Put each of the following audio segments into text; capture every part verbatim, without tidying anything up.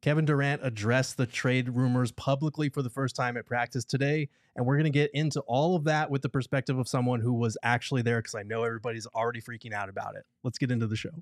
Kevin Durant addressed the trade rumors publicly for the first time at practice today, and we're going to get into all of that with the perspective of someone who was actually there, because I know everybody's already freaking out about it. Let's get into the show.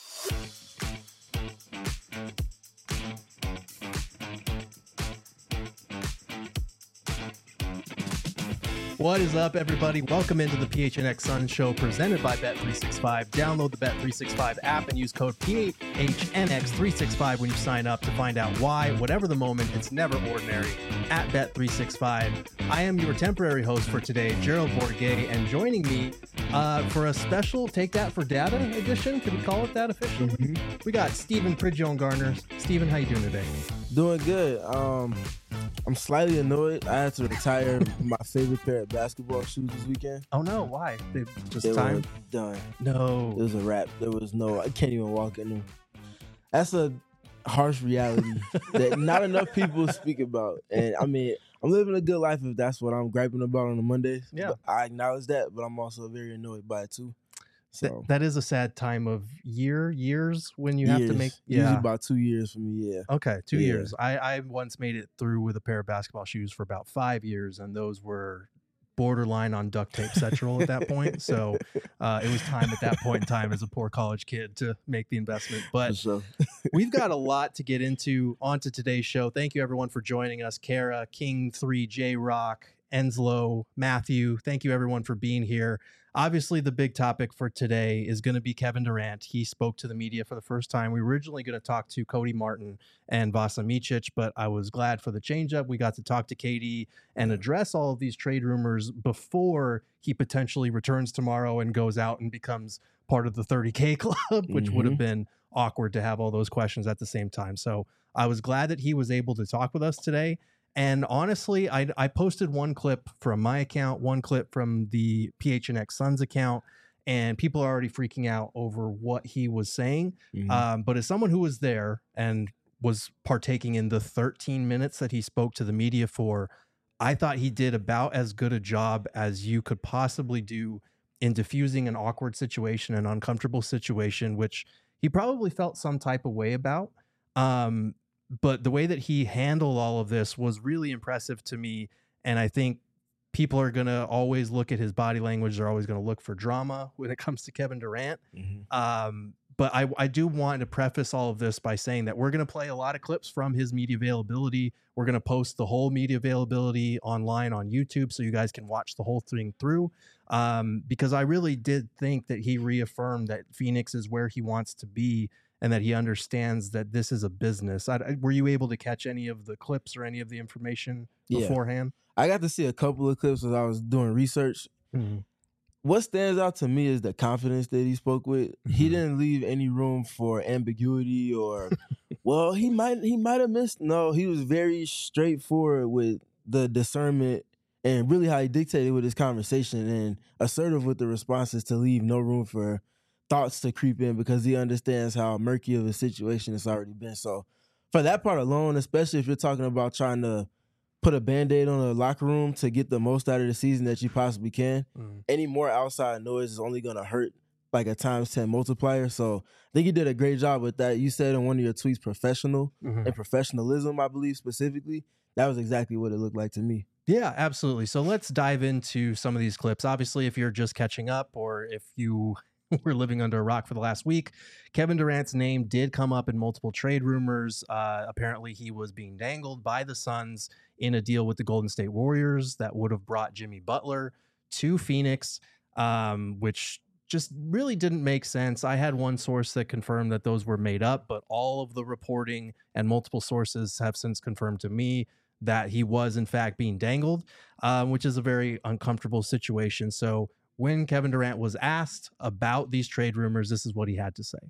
What is up, everybody? Welcome into the P H N X Suns Show presented by Bet three sixty-five. Download the Bet three sixty-five app and use code P H N X three sixty-five when you sign up to find out why, whatever the moment, it's never ordinary at Bet three sixty-five. I am your temporary host for today, Gerald Bourguet, and joining me uh, for a special Take That for Data edition, can we call it that officially? Mm-hmm. We got Stephen Pridgeon Garner. Stephen, how you doing today? Doing good. Um, I'm slightly annoyed. I had to retire my favorite pair of basketball shoes this weekend. Oh no, why? They just they time? were done. No. It was a wrap. There was no, I can't even walk in them. That's a harsh reality that not enough people speak about. And I mean, I'm living a good life if that's what I'm griping about on a Monday. Yeah. But I acknowledge that, but I'm also very annoyed by it too. So Th- that is a sad time of year, years when you years. have to make. Yeah. Usually Yeah. about two years for me, yeah. Okay, two Yeah. years. I, I once made it through with a pair of basketball shoes for about five years, and those were borderline on duct tape sexual at that point. So uh, it was time at that point in time as a poor college kid to make the investment. But sure. we've got a lot to get into onto today's show. Thank you, everyone, for joining us. Kara, King three, J-Rock, Enslow, Matthew. Thank you, everyone, for being here. Obviously, the big topic for today is going to be Kevin Durant. He spoke to the media for the first time. We were originally going to talk to Cody Martin and Vasa Micic, but I was glad for the changeup. We got to talk to K D and address all of these trade rumors before he potentially returns tomorrow and goes out and becomes part of the thirty K club, which Mm-hmm. would have been awkward to have all those questions at the same time. So I was glad that he was able to talk with us today. And honestly, I, I posted one clip from my account, one clip from the P H N X Suns account, and people are already freaking out over what he was saying. Mm-hmm. Um, but as someone who was there and was partaking in the thirteen minutes that he spoke to the media for, I thought he did about as good a job as you could possibly do in diffusing an awkward situation, an uncomfortable situation, which he probably felt some type of way about. Um, But the way that he handled all of this was really impressive to me. And I think people are going to always look at his body language. They're always going to look for drama when it comes to Kevin Durant. Mm-hmm. Um, but I, I do want to preface all of this by saying that we're going to play a lot of clips from his media availability. We're going to post the whole media availability online on YouTube so you guys can watch the whole thing through. Um, because I really did think that he reaffirmed that Phoenix is where he wants to be, and that he understands that this is a business. I, I, were you able to catch any of the clips or any of the information Yeah. beforehand? I got to see a couple of clips as I was doing research. Mm-hmm. What stands out to me is the confidence that he spoke with. Mm-hmm. He didn't leave any room for ambiguity or, well, he might he might have missed. No, he was very straightforward with the discernment and really how he dictated with his conversation, and assertive with the responses to leave no room for thoughts to creep in, because he understands how murky of a situation it's already been. So for that part alone, especially if you're talking about trying to put a Band-Aid on a locker room to get the most out of the season that you possibly can, mm. any more outside noise is only going to hurt like a times ten multiplier. So I think he did a great job with that. You said in one of your tweets, professional mm-hmm. and professionalism, I believe specifically. That was exactly what it looked like to me. Yeah, absolutely. So let's dive into some of these clips. Obviously, if you're just catching up, or if you we're living under a rock for the last week, Kevin Durant's name did come up in multiple trade rumors. Uh, apparently, he was being dangled by the Suns in a deal with the Golden State Warriors that would have brought Jimmy Butler to Phoenix, um, which just really didn't make sense. I had one source that confirmed that those were made up, but all of the reporting and multiple sources have since confirmed to me that he was, in fact, being dangled, um, which is a very uncomfortable situation. So when Kevin Durant was asked about these trade rumors, this is what he had to say.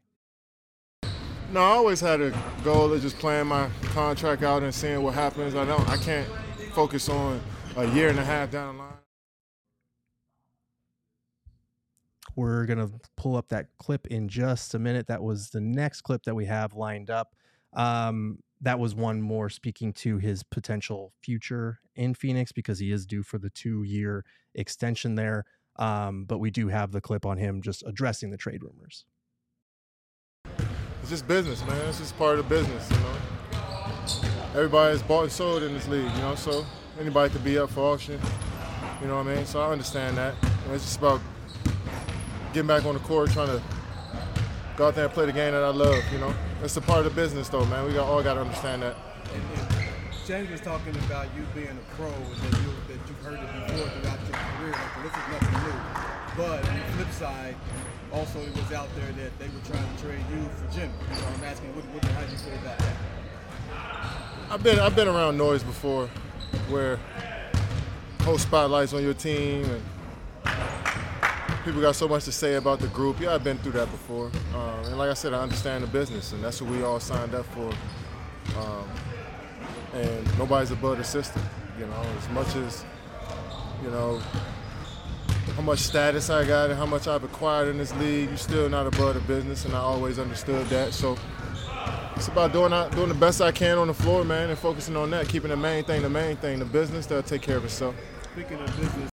No, I always had a goal of just playing my contract out and seeing what happens. I don't, I can't focus on a year and a half down the line. We're going to pull up that clip in just a minute. That was the next clip that we have lined up. Um, that was one more speaking to his potential future in Phoenix, because he is due for the two-year extension there. Um, but we do have the clip on him just addressing the trade rumors. It's just business, man. It's just part of the business, you know. everybody is bought and sold in this league, you know, so anybody could be up for auction, you know what I mean? So I understand that. You know, it's just about getting back on the court, trying to go out there and play the game that I love, you know. It's a part of the business, though, man. We got, all got to understand that. And, and James was talking about you being a pro and that, you, that you've heard it before throughout your career. Like, this is nothing new. But on the flip side, also it was out there that they were trying to trade you for Jimmy. So I'm asking, what, what, how do you feel about that? I've been I've been around noise before, where whole spotlights on your team and people got so much to say about the group. Yeah, I've been through that before, um, and like I said, I understand the business, and that's what we all signed up for. Um, and nobody's above the system, you know. As much as you know how much status I got and how much I've acquired in this league, you're still not above the business, and I always understood that. So it's about doing doing the best I can on the floor, man, and focusing on that, keeping the main thing the main thing. The business, that'll take care of itself. Speaking of business.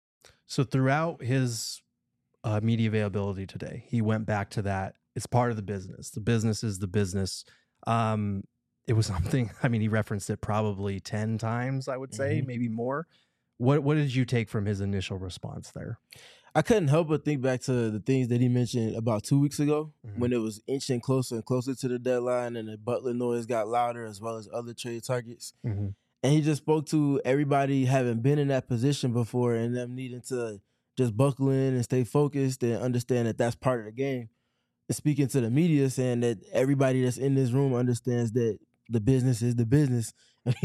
So throughout his uh, media availability today, he went back to that. It's part of the business. The business is the business. Um, it was something, I mean, he referenced it probably ten times, I would say, mm-hmm. maybe more. What What did you take from his initial response there? I couldn't help but think back to the things that he mentioned about two weeks ago mm-hmm. when it was inching closer and closer to the deadline and the Butler noise got louder as well as other trade targets. Mm-hmm. And he just spoke to everybody having been in that position before and them needing to just buckle in and stay focused and understand that that's part of the game. And speaking to the media, saying that everybody that's in this room understands that the business is the business.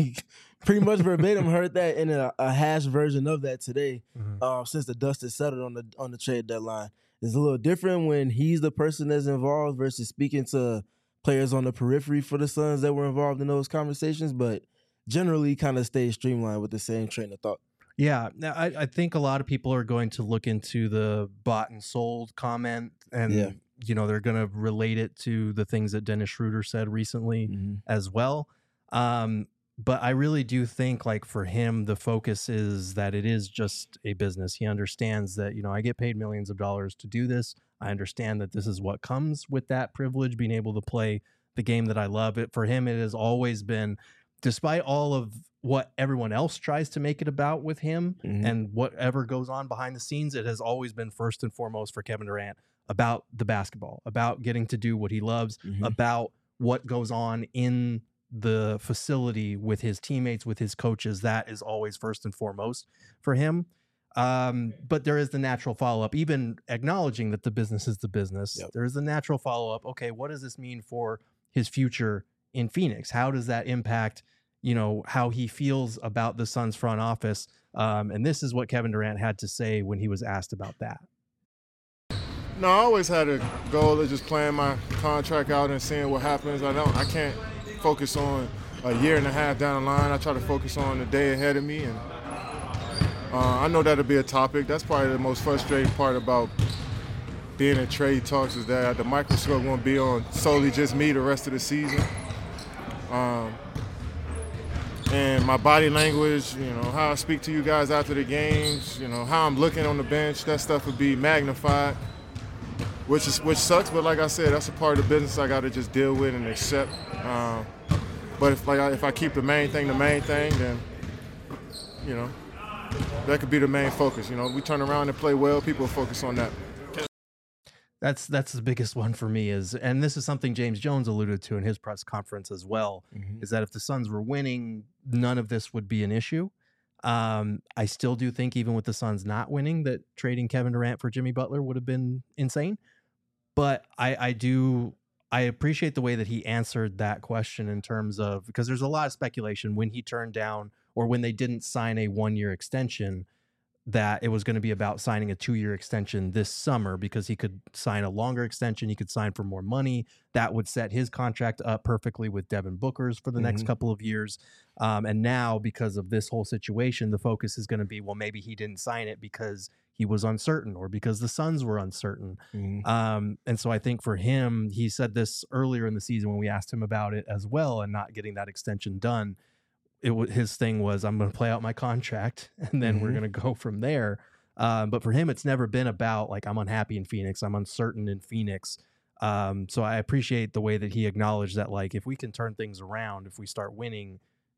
Pretty much verbatim heard that in a, a hash version of that today. Mm-hmm. uh, since the dust is settled on the on the trade deadline. It's a little different when he's the person that's involved versus speaking to players on the periphery for the Suns that were involved in those conversations, but generally kind of stays streamlined with the same train of thought. Yeah, I, I think a lot of people are going to look into the bought and sold comment, and yeah. you know they're going to relate it to the things that Dennis Schroeder said recently mm-hmm. as well. Um, But I really do think, like, for him, the focus is that it is just a business. He understands that, you know, I get paid millions of dollars to do this. I understand that this is what comes with that privilege, being able to play the game that I love. It for him, it has always been, despite all of what everyone else tries to make it about with him mm-hmm. and whatever goes on behind the scenes, it has always been first and foremost for Kevin Durant about the basketball, about getting to do what he loves, mm-hmm. about what goes on in the facility with his teammates, with his coaches. That is always first and foremost for him. Um, but there is the natural follow-up, even acknowledging that the business is the business. Yep. There is the natural follow-up. Okay, what does this mean for his future in Phoenix? How does that impact, you know, how he feels about the Suns front office? Um, and this is what Kevin Durant had to say when he was asked about that. No, I always had a goal of just playing my contract out and seeing what happens. I don't, I can't focus on a year and a half down the line. I try to focus on the day ahead of me, and uh, I know that'll be a topic. That's probably the most frustrating part about being in trade talks, is that the microscope won't be on solely just me the rest of the season. Um, and my body language, you know, how I speak to you guys after the games, you know, how I'm looking on the bench, that stuff would be magnified, which is which sucks. But like I said, that's a part of the business I got to just deal with and accept. Um, but if like I, if I keep the main thing the main thing, then you know that could be the main focus. You know, we turn around and play well, people focus on that. That's that's the biggest one for me is, and this is something James Jones alluded to in his press conference as well, mm-hmm. is that if the Suns were winning, none of this would be an issue. Um, I still do think even with the Suns not winning, that trading Kevin Durant for Jimmy Butler would have been insane. But I, I do, I appreciate the way that he answered that question in terms of, because there's a lot of speculation when he turned down or when they didn't sign a one-year extension, that it was going to be about signing a two-year extension this summer because he could sign a longer extension. He could sign for more money. That would set his contract up perfectly with Devin Booker's for the mm-hmm. next couple of years. Um, and now, because of this whole situation, the focus is going to be, well, maybe he didn't sign it because he was uncertain or because the Suns were uncertain. Mm-hmm. Um, and so I think for him, he said this earlier in the season when we asked him about it as well and not getting that extension done. It was his thing was, I'm going to play out my contract and then mm-hmm. we're going to go from there. Um, but for him, it's never been about like, I'm unhappy in Phoenix. I'm uncertain in Phoenix. Um, so I appreciate the way that he acknowledged that, like, if we can turn things around, if we start winning,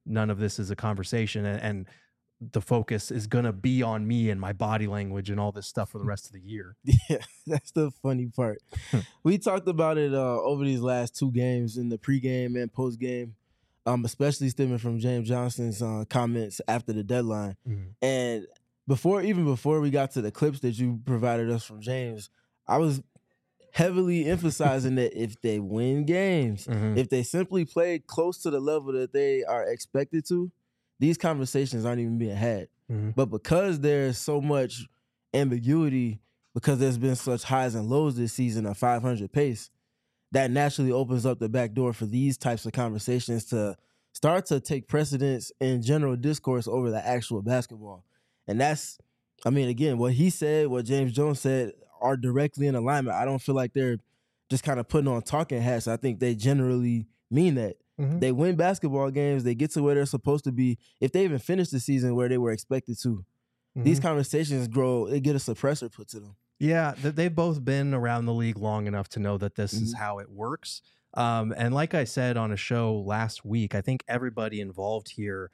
none of this is a conversation, and, and the focus is going to be on me and my body language and all this stuff for the rest of the year. Yeah, that's the funny part. We talked about it uh, over these last two games in the pregame and postgame, um, especially stemming from James Johnson's uh, comments after the deadline. Mm-hmm. And before, even before we got to the clips that you provided us from James, I was heavily emphasizing that if they win games, Mm-hmm. if they simply play close to the level that they are expected to, these conversations aren't even being had. Mm-hmm. But because there's so much ambiguity, because there's been such highs and lows this season, a five hundred pace, that naturally opens up the back door for these types of conversations to start to take precedence in general discourse over the actual basketball. And that's, I mean, again, what he said, what James Jones said are directly in alignment. I don't feel like they're just kind of putting on talking hats. I think they generally mean that. Mm-hmm. They win basketball games. They get to where they're supposed to be. If they even finish the season where they were expected to, Mm-hmm. these conversations grow. They get a suppressor put to them. Yeah, th- they've both been around the league long enough to know that this is Mhm. how it works. Um, and like I said on a show last week, I think everybody involved here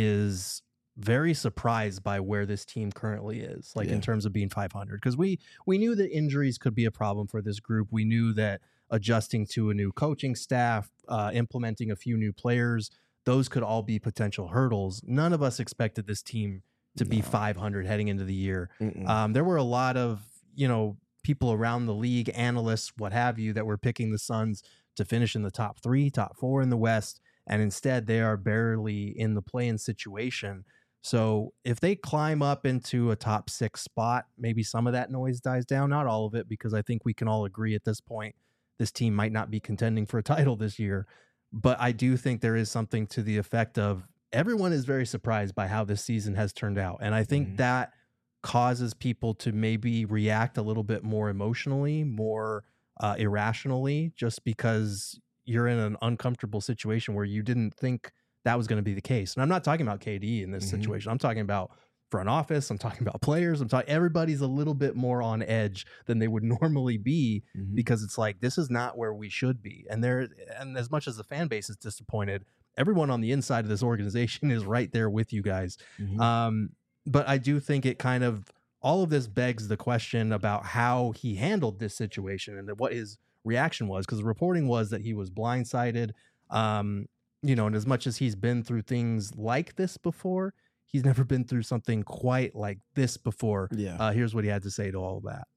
is very surprised by where this team currently is, like Yeah. in terms of being five hundred. Because we we knew that injuries could be a problem for this group. We knew that adjusting to a new coaching staff, uh, implementing a few new players, those could all be potential hurdles. None of us expected this team to be No. five hundred heading into the year. Mm-mm. Um, there were a lot of, you know, people around the league, analysts, what have you, that were picking the Suns to finish in the top three, top four in the West. And instead they are barely in the play-in situation. So if they climb up into a top six spot, maybe some of that noise dies down, not all of it, because I think we can all agree at this point, this team might not be contending for a title this year. But I do think there is something to the effect of everyone is very surprised by how this season has turned out. And I think Mhm. that causes people to maybe react a little bit more emotionally, more uh, irrationally, just because you're in an uncomfortable situation where you didn't think that was going to be the case. And I'm not talking about K D in this Mhm. situation. I'm talking about front office. I'm talking about players. I'm talking, everybody's a little bit more on edge than they would normally be, Mhm. because it's like, this is not where we should be. And there, and as much as the fan base is disappointed, everyone on the inside of this organization is right there with you guys. Mhm. Um, but I do think it kind of, all of this begs the question about how he handled this situation and what his reaction was, because the reporting was that he was blindsided. Um, you know, and as much as he's been through things like this before, he's never been through something quite like this before. Yeah. Uh, here's what he had to say to all of that.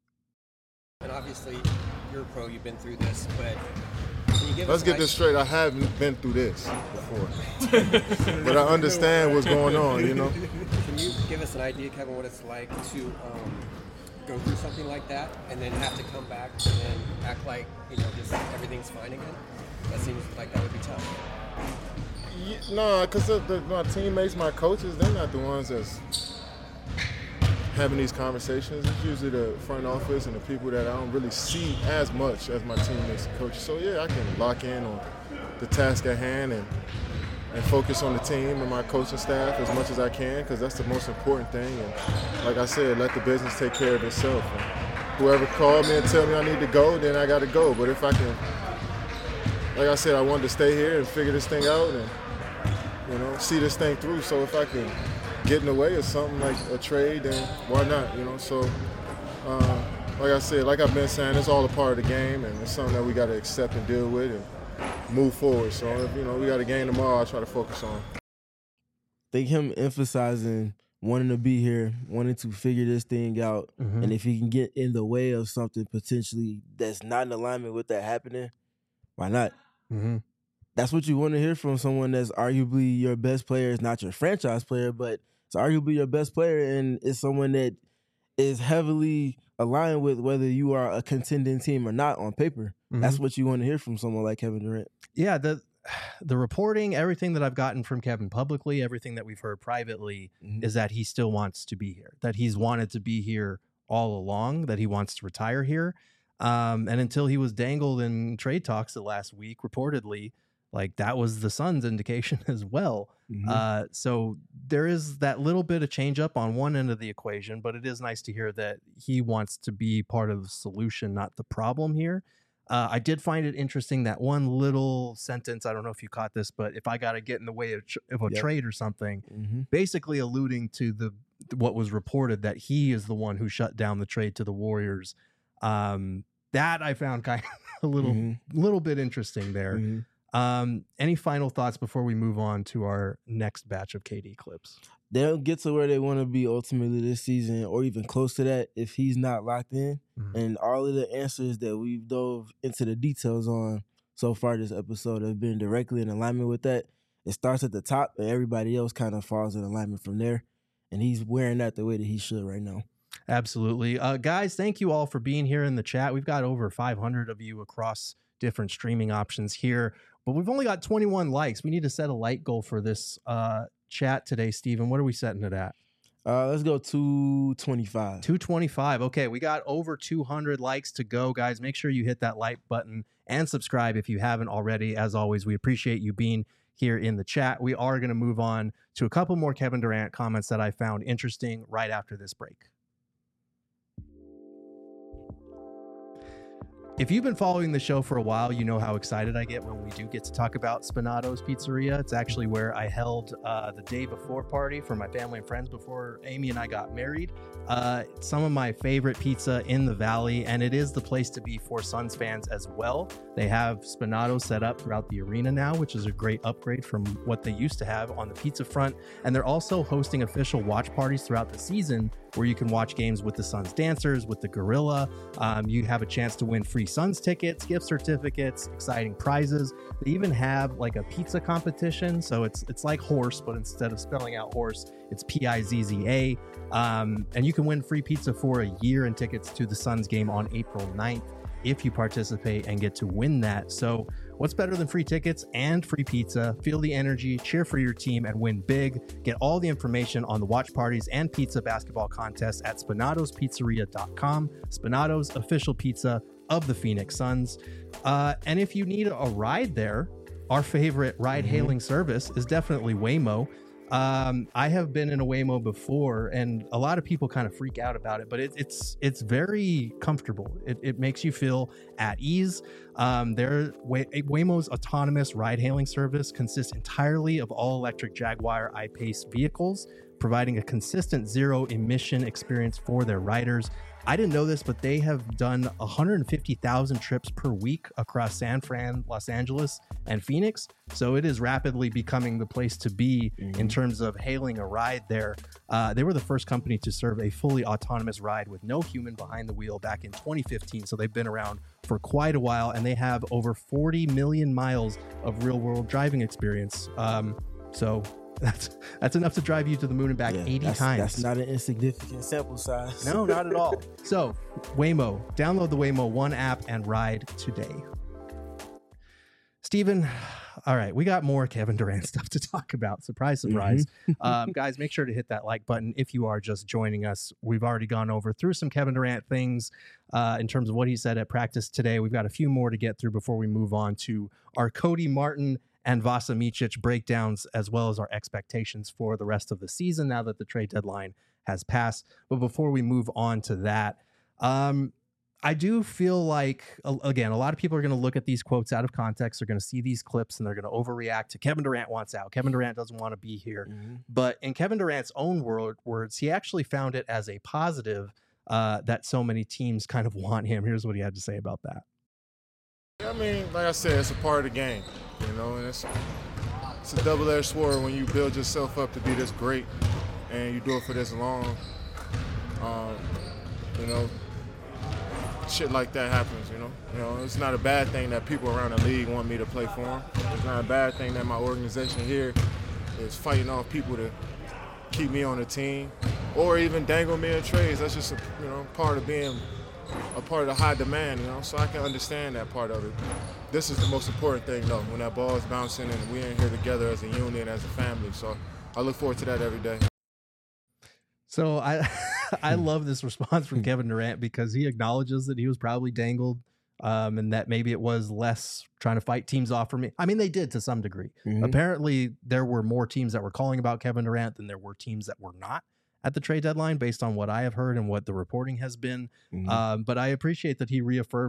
And obviously, you're a pro, you've been through this, but can you give Let's us get an this straight. I haven't been through this before, but I understand what's going on. You know, idea- Can you give us an idea, Kevin, what it's like to um, go through something like that and then have to come back and then act like, you know, just everything's fine again? That seems like that would be tough. yeah, no, because the, the, my teammates, my coaches, they're not the ones that's having these conversations. It's usually the front office and the people that I don't really see as much as my teammates and coaches. So yeah, I can lock in on the task at hand and and focus on the team and my coaching staff as much as I can, because that's the most important thing. And like I said, let the business take care of itself. And whoever called me and tell me I need to go, then I got to go. But if I can, like I said, I wanted to stay here and figure this thing out and, you know, see this thing through. So if I can get in the way of something like a trade, then why not, you know? So, uh, like I said, like I've been saying, it's all a part of the game, and it's something that we got to accept and deal with and move forward. So, if, you know, we got a game tomorrow, I'll try to focus on. I think him emphasizing wanting to be here, wanting to figure this thing out, Mhm. and if he can get in the way of something potentially that's not in alignment with that happening, why not? Mm-hmm. That's what you want to hear from someone that's arguably your best player. It's not your franchise player, but it's arguably your best player, and it's someone that is heavily aligned with whether you are a contending team or not on paper. Mhm. That's what you want to hear from someone like Kevin Durant. Yeah, the the reporting, everything that I've gotten from Kevin publicly, everything that we've heard privately, Mhm. is that he still wants to be here, that he's wanted to be here all along, that he wants to retire here. Um, and until he was dangled in trade talks the last week, reportedly, like that was the Suns' indication as well. Mhm. Uh, so there is that little bit of change up on one end of the equation, but it is nice to hear that he wants to be part of the solution, not the problem here. Uh, I did find it interesting that one little sentence. I don't know if you caught this, but if I got to get in the way of, tr- of a Yep. trade or something, Mm-hmm. basically alluding to the what was reported that he is the one who shut down the trade to the Warriors. Um, that I found kind of a little Mm-hmm. little bit interesting there. Mm-hmm. Um, any final thoughts before we move on to our next batch of K D clips? They'll get to where they want to be ultimately this season, or even close to that, if he's not locked in. Mhm. And all of the answers that we've dove into the details on so far this episode have been directly in alignment with that. It starts at the top, and everybody else kind of falls in alignment from there. And he's wearing that the way that he should right now. Absolutely. Uh, guys, thank you all for being here in the chat. We've got over five hundred of you across different streaming options here, but we've only got twenty-one likes. We need to set a like goal for this uh, chat today, Steven. What are we setting it at? Uh, let's go two twenty-five. two twenty-five. Okay, we got over two hundred likes to go, guys. Make sure you hit that like button and subscribe if you haven't already. As always, we appreciate you being here in the chat. We are going to move on to a couple more Kevin Durant comments that I found interesting right after this break. If you've been following the show for a while, you know how excited I get when we do get to talk about Spinato's Pizzeria. It's actually where I held uh, the day before party for my family and friends before Amy and I got married. Uh, some of my favorite pizza in the Valley, and it is the place to be for Suns fans as well. They have Spinato set up throughout the arena now, which is a great upgrade from what they used to have on the pizza front. And they're also hosting official watch parties throughout the season where you can watch games with the Suns dancers, with the Gorilla. Um, you have a chance to win free Suns tickets, gift certificates, exciting prizes. They even have like a pizza competition. So it's it's like horse, but instead of spelling out horse, it's P I Z Z A. Um, and you can win free pizza for a year and tickets to the Suns game on April ninth if you participate and get to win that. So what's better than free tickets and free pizza? Feel the energy, cheer for your team, and win big. Get all the information on the watch parties and pizza basketball contests at spinatos pizzeria dot com. Spinato's official pizza of the Phoenix Suns. Uh, and if you need a ride there, our favorite ride-hailing service is definitely Waymo. Um, I have been in a Waymo before, and a lot of people kind of freak out about it, but it, it's it's very comfortable. It, it makes you feel at ease. Um, their Way, Waymo's autonomous ride-hailing service consists entirely of all-electric Jaguar I-Pace vehicles, providing a consistent zero-emission experience for their riders. I didn't know this, but they have done one hundred fifty thousand trips per week across San Fran, Los Angeles, and Phoenix. So it is rapidly becoming the place to be mm-hmm. in terms of hailing a ride there. Uh, they were the first company to serve a fully autonomous ride with no human behind the wheel back in twenty fifteen. So they've been around for quite a while, and they have over forty million miles of real-world driving experience. Um, so That's that's enough to drive you to the moon and back Yeah, eighty that's, times. That's not an insignificant sample size. No, not at all. So, Waymo, download the Waymo One app and ride today. Steven, all right, we got more Kevin Durant stuff to talk about. Surprise, surprise. Mm-hmm. um, guys, make sure to hit that like button if you are just joining us. We've already gone over through some Kevin Durant things uh, in terms of what he said at practice today. We've got a few more to get through before we move on to our Cody Martin and Vasa Micic breakdowns, as well as our expectations for the rest of the season now that the trade deadline has passed. But before we move on to that, um, I do feel like, again, a lot of people are going to look at these quotes out of context. They're going to see these clips and they're going to overreact to Kevin Durant wants out. Kevin Durant doesn't want to be here. Mm-hmm. But in Kevin Durant's own word, words, he actually found it as a positive uh, that so many teams kind of want him. Here's what he had to say about that. I mean, like I said, it's a part of the game, you know, and it's, it's a double-edged sword when you build yourself up to be this great and you do it for this long. Um, you know, shit like that happens, you know. You know, it's not a bad thing that people around the league want me to play for them. It's not a bad thing that my organization here is fighting off people to keep me on the team or even dangle me in trades. That's just, a, you know, part of being a part of the high demand, you know, so I can understand that part of it. This is the most important thing, though, when that ball is bouncing and we're in here together as a unit, as a family. So I look forward to that every day. So I I love this response from Kevin Durant because he acknowledges that he was probably dangled um, and that maybe it was less trying to fight teams off for me. I mean, they did to some degree. Mm-hmm. Apparently, there were more teams that were calling about Kevin Durant than there were teams that were not at the trade deadline, based on what I have heard and what the reporting has been. Mm-hmm. Um, but I appreciate that he reaffirmed, like,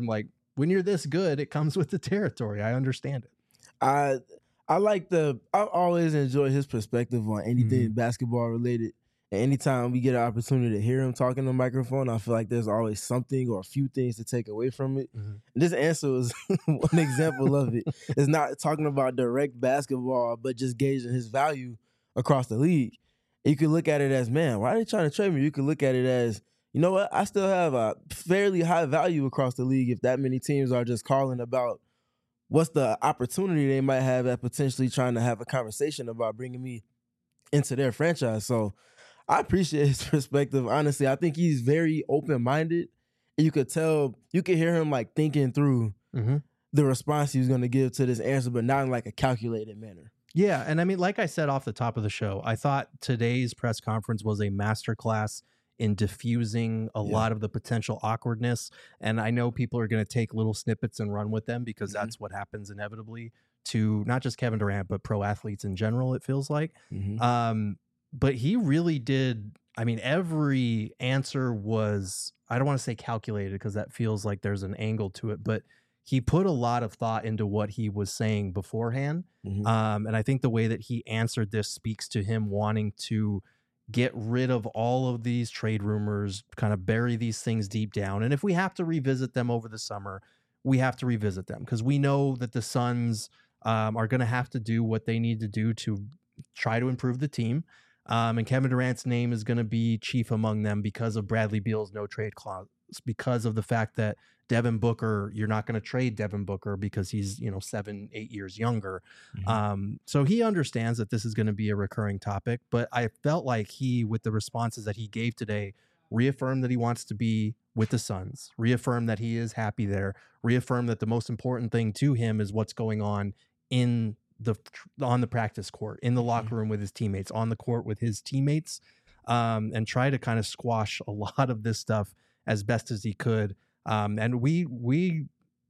when you're this good, it comes with the territory. I understand it. I I like the I always enjoy his perspective on anything Mhm. basketball related. And anytime we get an opportunity to hear him talking on the microphone, I feel like there's always something or a few things to take away from it. Mhm. And this answer was one example of it. It's not talking about direct basketball, but just gauging his value across the league. You could look at it as, man, why are they trying to trade me? You could look at it as, you know what? I still have a fairly high value across the league if that many teams are just calling about what's the opportunity they might have at potentially trying to have a conversation about bringing me into their franchise. So I appreciate his perspective. Honestly, I think he's very open-minded. And you could tell, you could hear him like thinking through Mm-hmm. the response he was going to give to this answer, but not in like a calculated manner. Yeah, and I mean, like I said off the top of the show, I thought today's press conference was a masterclass in diffusing a Yeah. lot of the potential awkwardness. And I know people are going to take little snippets and run with them because Mhm. that's what happens inevitably to not just Kevin Durant, but pro athletes in general, it feels like. Mhm. Um, but he really did. I mean, every answer was, I don't want to say calculated because that feels like there's an angle to it, but he put a lot of thought into what he was saying beforehand. Mhm. Um, and I think the way that he answered this speaks to him wanting to get rid of all of these trade rumors, kind of bury these things deep down. And if we have to revisit them over the summer, we have to revisit them because we know that the Suns um, are going to have to do what they need to do to try to improve the team. Um, and Kevin Durant's name is going to be chief among them because of Bradley Beal's no trade clause, because of the fact that Devin Booker, you're not going to trade Devin Booker because he's, you know, seven, eight years younger. Mhm. Um, so he understands that this is going to be a recurring topic, but I felt like he, with the responses that he gave today, reaffirmed that he wants to be with the Suns, reaffirmed that he is happy there, reaffirmed that the most important thing to him is what's going on in the on the practice court, in the locker room with his teammates, on the court with his teammates, um, and try to kind of squash a lot of this stuff as best as he could. Um, and we we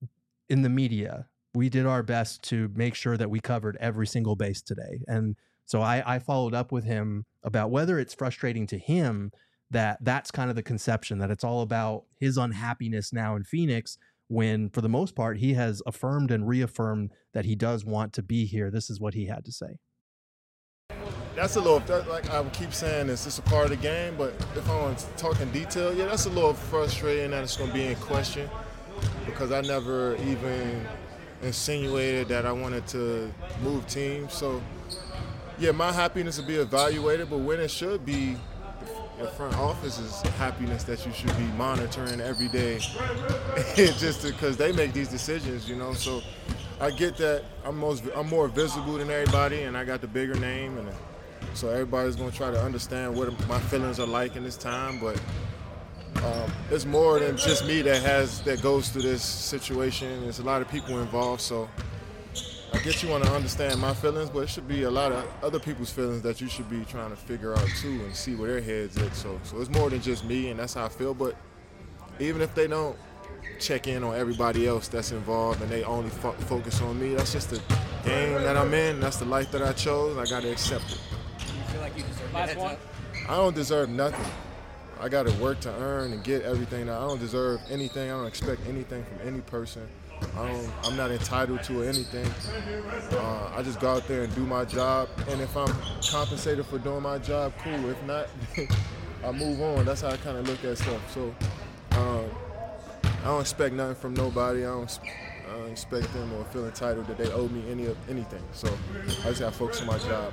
in the media, we did our best to make sure that we covered every single base today. And so I, I followed up with him about whether it's frustrating to him that that's kind of the conception, that it's all about his unhappiness now in Phoenix, when for the most part, he has affirmed and reaffirmed that he does want to be here. This is what he had to say. That's a little, that, like I keep saying, it's just a part of the game, but if I want to talk in detail, yeah, that's a little frustrating that it's going to be in question because I never even insinuated that I wanted to move teams. So, yeah, my happiness will be evaluated, but when it should be your front office's happiness that you should be monitoring every day just because they make these decisions, you know. So I get that I'm most I'm more visible than everybody, and I got the bigger name, and so everybody's gonna try to understand what my feelings are like in this time. But um, it's more than just me that has that goes through this situation. There's a lot of people involved, so I guess you want to understand my feelings, but it should be a lot of other people's feelings that you should be trying to figure out too and see where their heads at. So, so it's more than just me, and that's how I feel. But even if they don't check in on everybody else that's involved and they only fo- focus on me, that's just the game that I'm in. That's the life that I chose. I got to accept it. Do you feel like you deserve the Last heads one. up? I don't deserve nothing. I got to work to earn and get everything. I don't deserve anything. I don't expect anything from any person. I don't, I'm not entitled to anything. Uh, I just go out there and do my job, and if I'm compensated for doing my job, cool. If not, I move on. That's how I kind of look at stuff. So um, I don't expect nothing from nobody. I don't, I don't expect them or feel entitled that they owe me any of anything. So I just got to focus on my job.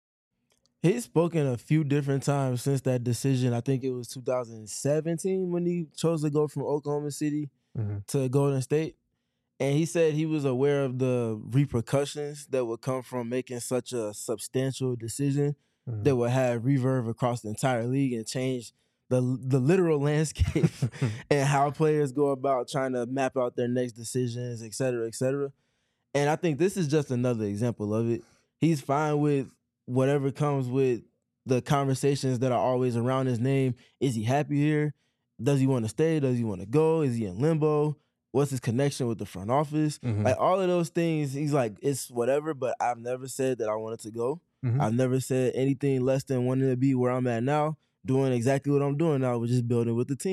He's spoken a few different times since that decision. I think it was two thousand seventeen when he chose to go from Oklahoma City Mm-hmm. to Golden State. And he said he was aware of the repercussions that would come from making such a substantial decision Mm-hmm. that would have reverb across the entire league and change the the literal landscape and how players go about trying to map out their next decisions, et cetera, et cetera. And I think this is just another example of it. He's fine with whatever comes with the conversations that are always around his name. Is he happy here? Does he want to stay? Does he want to go? Is he in limbo? What's his connection with the front office? Mhm. Like all of those things, he's like, it's whatever, but I've never said that I wanted to go. Mhm. I've never said anything less than wanting to be where I'm at now, doing exactly what I'm doing now, which is building with the team.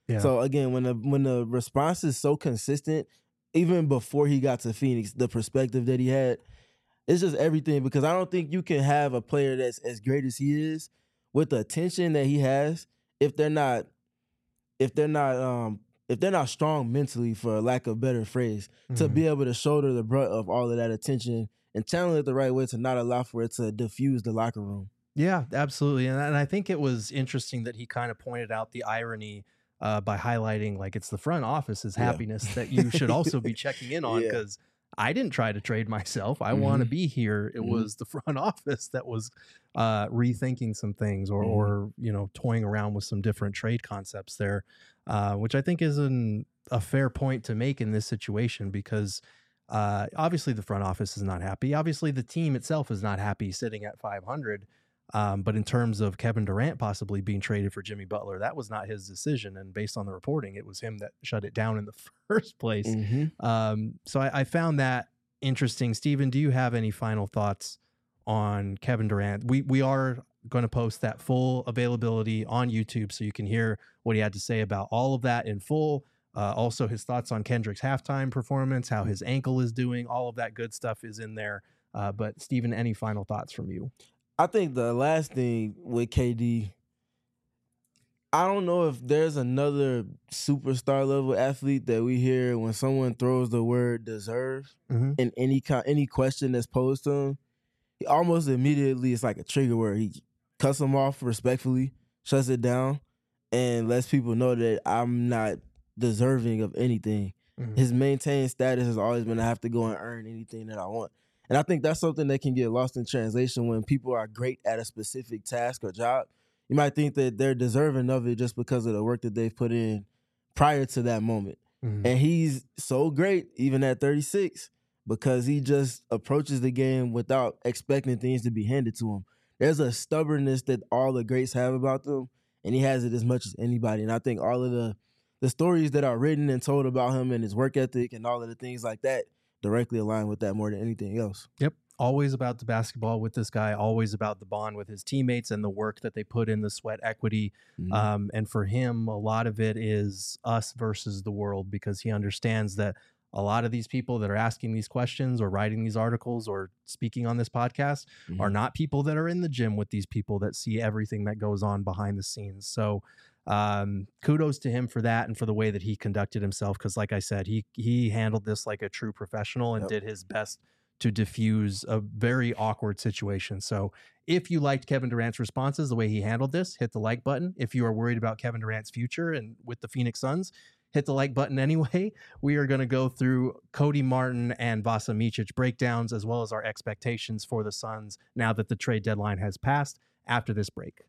Yeah. So again, when the when the response is so consistent, even before he got to Phoenix, the perspective that he had, it's just everything. Because I don't think you can have a player that's as great as he is with the attention that he has if they're not if they're not um if they're not strong mentally, for lack of a better phrase, mm-hmm. to be able to shoulder the brunt of all of that attention and channel it the right way to not allow for it to diffuse the locker room. Yeah, absolutely. And, and I think it was interesting that he kind of pointed out the irony uh, by highlighting, like, it's the front office's happiness yeah. that you should also be checking in on, because yeah. I didn't try to trade myself. I mm-hmm. want to be here. It mm-hmm. was the front office that was uh, rethinking some things or, mm-hmm. or, you know, toying around with some different trade concepts there, uh, which I think is an, a fair point to make in this situation, because uh, obviously the front office is not happy. Obviously the team itself is not happy sitting at five hundred. Um, but in terms of Kevin Durant possibly being traded for Jimmy Butler, that was not his decision. And based on the reporting, it was him that shut it down in the first place. Mm-hmm. Um, so I, I found that interesting. Steven, do you have any final thoughts on Kevin Durant? We we are going to post that full availability on YouTube so you can hear what he had to say about all of that in full. Uh, also, his thoughts on Kendrick's halftime performance, how his ankle is doing, all of that good stuff is in there. Uh, but Steven, any final thoughts from you? I think the last thing with K D, I don't know if there's another superstar level athlete that we hear when someone throws the word deserve mm-hmm. in any any question that's posed to him, he almost immediately, it's like a trigger word. He cuts them off respectfully, shuts it down, and lets people know that I'm not deserving of anything. Mm-hmm. His maintained status has always been, I have to go and earn anything that I want. And I think that's something that can get lost in translation when people are great at a specific task or job. You might think that they're deserving of it just because of the work that they've put in prior to that moment. Mm-hmm. And he's so great, even at thirty-six, because he just approaches the game without expecting things to be handed to him. There's a stubbornness that all the greats have about them, and he has it as much as anybody. And I think all of the, the stories that are written and told about him and his work ethic and all of the things like that directly align with that more than anything else. Yep. Always about the basketball with this guy, always about the bond with his teammates and the work that they put in, the sweat equity. Mm-hmm. Um, and for him, a lot of it is us versus the world, because he understands that a lot of these people that are asking these questions or writing these articles or speaking on this podcast mm-hmm. are not people that are in the gym with these people that see everything that goes on behind the scenes. So Um, kudos to him for that and for the way that he conducted himself. Cause like I said, he, he handled this like a true professional and yep. did his best to diffuse a very awkward situation. So if you liked Kevin Durant's responses, the way he handled this, hit the like button. If you are worried about Kevin Durant's future and with the Phoenix Suns, hit the like button anyway. We are going to go through Cody Martin and Vasa Micic breakdowns, as well as our expectations for the Suns now that the trade deadline has passed after this break.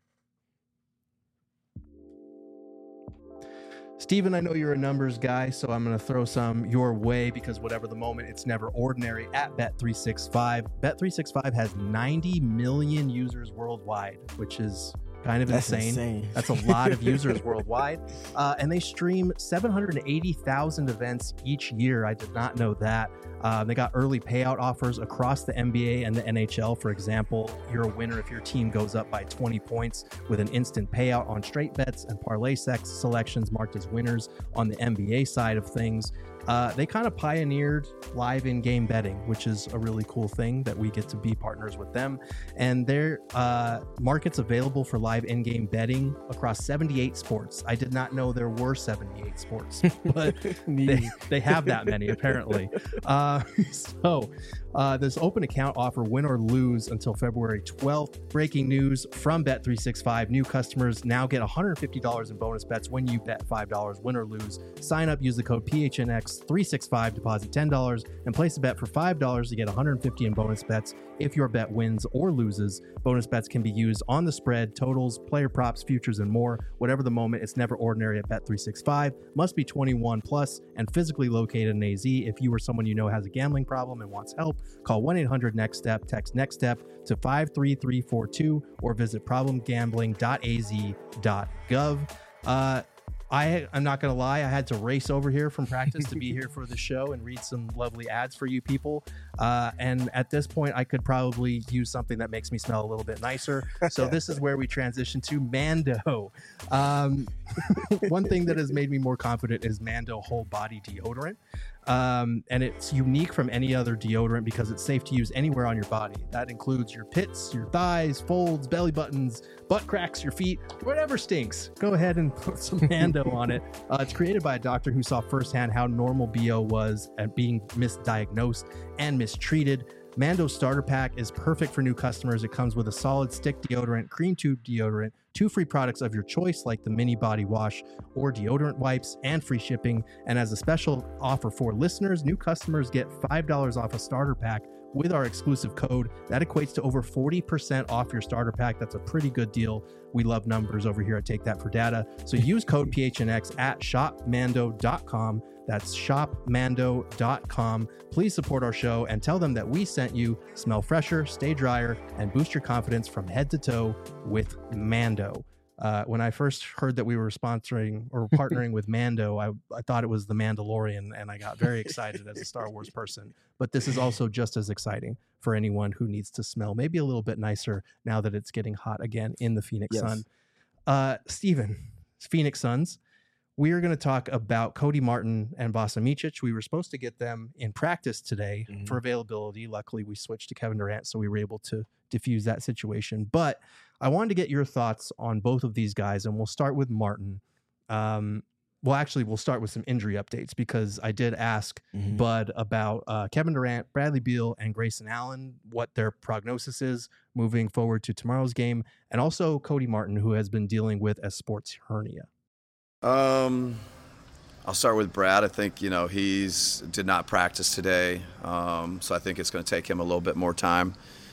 Steven, I know you're a numbers guy, so I'm going to throw some your way, because whatever the moment, it's never ordinary at Bet three sixty-five. Bet three sixty-five has ninety million users worldwide, which is kind of That's insane. insane. That's a lot of users worldwide. Uh, and they stream seven hundred eighty thousand events each year. I did not know that. Uh, they got early payout offers across the N B A and the N H L. For example, you're a winner if your team goes up by twenty points with an instant payout on straight bets and parlay sex selections marked as winners on the N B A side of things. Uh, they kind of pioneered live in-game betting, which is a really cool thing that we get to be partners with them. And their uh, markets available for live in-game betting across seventy-eight sports. I did not know there were seventy-eight sports, but they, they have that many apparently. Uh, so uh, this open account offer, win or lose, until February twelfth. Breaking news from Bet three sixty-five. New customers now get one hundred fifty dollars in bonus bets when you bet five dollars, win or lose. Sign up, use the code P H N X three sixty-five, deposit ten dollars, and place a bet for five dollars to get one hundred fifty dollars in bonus bets if your bet wins or loses. Bonus bets can be used on the spread, totals, player props, futures, and more. Whatever the moment, it's never ordinary at Bet three sixty-five. Must be twenty-one plus and physically located in A Z. If you or someone you know has a gambling problem and wants help, call one eight hundred next step, text NEXTSTEP to five three three four two, or visit problem gambling dot a z dot gov. Uh, I, I'm not going to lie. I had to race over here from practice to be here for the show and read some lovely ads for you people. Uh, and at this point, I could probably use something that makes me smell a little bit nicer. So this is where we transition to Mando. Um, one thing that has made me more confident is Mando whole body deodorant. Um, and it's unique from any other deodorant because it's safe to use anywhere on your body. That includes your pits, your thighs, folds, belly buttons, butt cracks, your feet, whatever stinks. Go ahead and put some Mando on it. Uh, it's created by a doctor who saw firsthand how normal B O was at being misdiagnosed and mistreated. Mando starter pack is perfect for new customers. It comes with a solid stick deodorant, cream tube deodorant, two free products of your choice like the mini body wash or deodorant wipes, and free shipping. And as a special offer for listeners, new customers get five dollars off a starter pack with our exclusive code. That equates to over forty percent off your starter pack. That's a pretty good deal. We love numbers over here at Take That for Data. So use code P H N X at shop mando dot com. That's shop mando dot com. Please support our show and tell them that we sent you. Smell fresher, stay drier, and boost your confidence from head to toe with Mando. Uh, when I first heard that we were sponsoring or partnering with Mando, I, I thought it was The Mandalorian, and I got very excited as a Star Wars person. But this is also just as exciting for anyone who needs to smell maybe a little bit nicer now that it's getting hot again in the Phoenix Yes. Sun. Uh, Steven, Phoenix Suns. We are going to talk about Cody Martin and Vasa Micic. We were supposed to get them in practice today Mhm. for availability. Luckily, we switched to Kevin Durant, so we were able to diffuse that situation. But I wanted to get your thoughts on both of these guys, and we'll start with Martin. Um, well, actually, we'll start with some injury updates because I did ask Mhm. Bud about uh, Kevin Durant, Bradley Beal, and Grayson Allen, what their prognosis is moving forward to tomorrow's game, and also Cody Martin, who has been dealing with a sports hernia. Um, I'll start with Brad. I think, you know, he's did not practice today, um, so I think it's going to take him a little bit more time.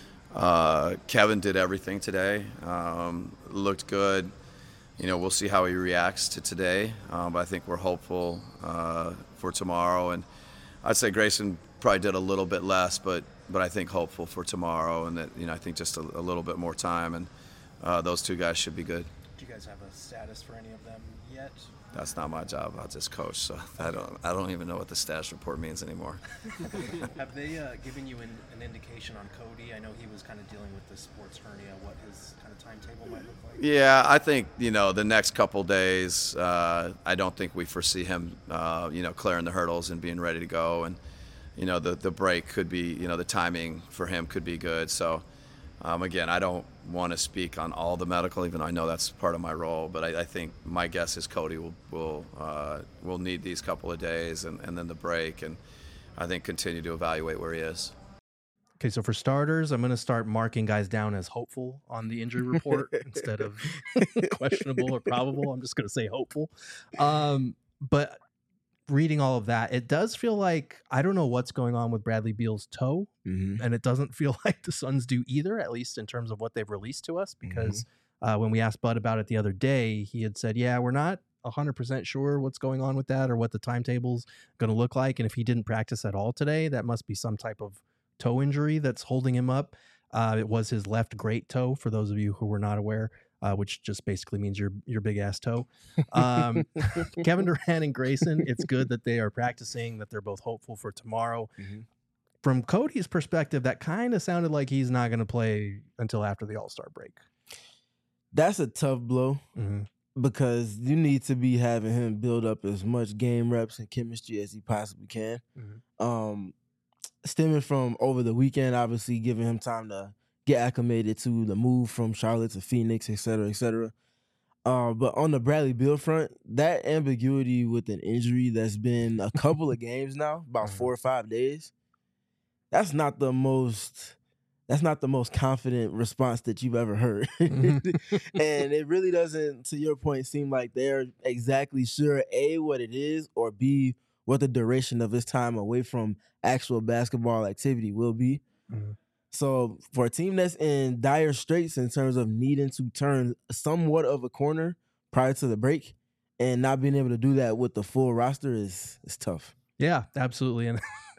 Uh, Kevin did everything today, um, looked good. You know, we'll see how he reacts to today, um, but I think we're hopeful uh, for tomorrow. And I'd say Grayson probably did a little bit less, but but I think hopeful for tomorrow, and that, you know, I think just a, a little bit more time, and uh, those two guys should be good. Do you guys have a status for any of them yet? That's not my job. I'll just coach, so I don't I don't even know what the status report means anymore. Have they uh, given you an, an indication on Cody? I know he was kind of dealing with the sports hernia, what his kind of timetable might look like? Yeah, I think, you know, the next couple days, uh, I don't think we foresee him, uh, you know, clearing the hurdles and being ready to go. And, you know, the, the break could be, you know, the timing for him could be good. So, um, again, I don't want to speak on all the medical, even though I know that's part of my role. But I, I think my guess is Cody will will uh, will need these couple of days and, and then the break, and I think continue to evaluate where he is. Okay, so for starters, I'm going to start marking guys down as hopeful on the injury report instead of questionable or probable. I'm just going to say hopeful. Um, but reading all of that, it does feel like I don't know what's going on with Bradley Beal's toe, Mhm. and it doesn't feel like the Suns do either, at least in terms of what they've released to us. Because uh, when we asked Bud about it the other day, he had said, "Yeah, we're not one hundred percent sure what's going on with that or what the timetable's going to look like." And if he didn't practice at all today, that must be some type of toe injury that's holding him up. Uh, it was his left great toe, for those of you who were not aware, uh, which just basically means your your big ass toe. Um, Kevin Durant and Grayson, it's good that they are practicing, that they're both hopeful for tomorrow. Mhm. From Cody's perspective, that kind of sounded like he's not going to play until after the All-Star break. That's a tough blow Mm-hmm. because you need to be having him build up as much game reps and chemistry as he possibly can. Mhm. Um, stemming from over the weekend, obviously giving him time to get acclimated to the move from Charlotte to Phoenix, et cetera, et cetera. Uh, but on the Bradley Beal front, that ambiguity with an injury that's been a couple of games now, about four or five days, that's not the most that's not the most confident response that you've ever heard. And it really doesn't, to your point, seem like they're exactly sure, A, what it is, or B, what the duration of his time away from actual basketball activity will be. Mhm. So for a team that's in dire straits in terms of needing to turn somewhat of a corner prior to the break and not being able to do that with the full roster is is tough. Yeah, absolutely. And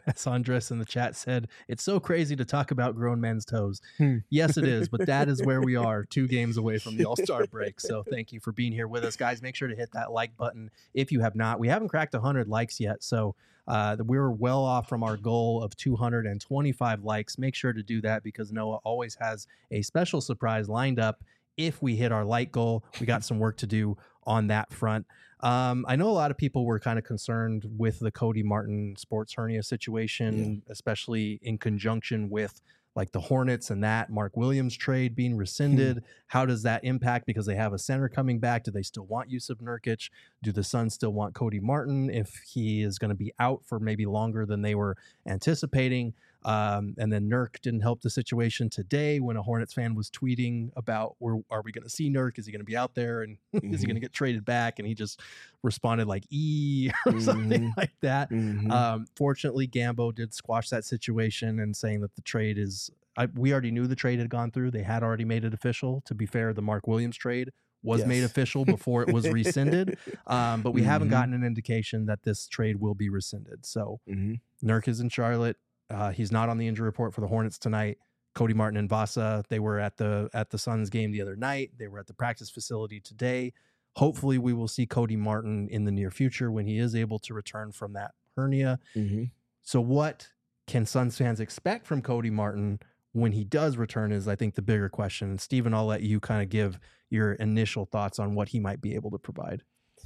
As Andres in the chat said, it's so crazy to talk about grown men's toes. Hmm. Yes, it is, but that is where we are, two games away from the All-Star break. So thank you for being here with us, guys. Make sure to hit that like button if you have not. We haven't cracked one hundred likes yet, so uh, we're well off from our goal of two hundred twenty-five likes. Make sure to do that because Noah always has a special surprise lined up if we hit our like goal. We got some work to do on that front. Um, I know a lot of people were kind of concerned with the Cody Martin sports hernia situation, yeah. especially in conjunction with like the Hornets and that Mark Williams trade being rescinded. How does that impact? Because they have a center coming back. Do they still want Jusuf Nurkic? Do the Suns still want Cody Martin if he is going to be out for maybe longer than they were anticipating? Um, and then Nurk didn't help the situation today when a Hornets fan was tweeting about, where are we going to see Nurk? Is he going to be out there? And mm-hmm. is he going to get traded back? And he just responded like, E or mm-hmm. something like that. Mm-hmm. Um, fortunately, Gambo did squash that situation and saying that the trade is, I, we already knew the trade had gone through. They had already made it official. To be fair, the Mark Williams trade was yes. made official before it was rescinded. Um, but we mm-hmm. haven't gotten an indication that this trade will be rescinded. So mm-hmm. Nurk is in Charlotte. Uh, he's not on the injury report for the Hornets tonight. Cody Martin and Vasa, they were at the at the Suns game the other night. They were at the practice facility today. Hopefully, we will see Cody Martin in the near future when he is able to return from that hernia. Mm-hmm. So what can Suns fans expect from Cody Martin when he does return is, I think, the bigger question. And Steven, I'll let you kind of give your initial thoughts on what he might be able to provide.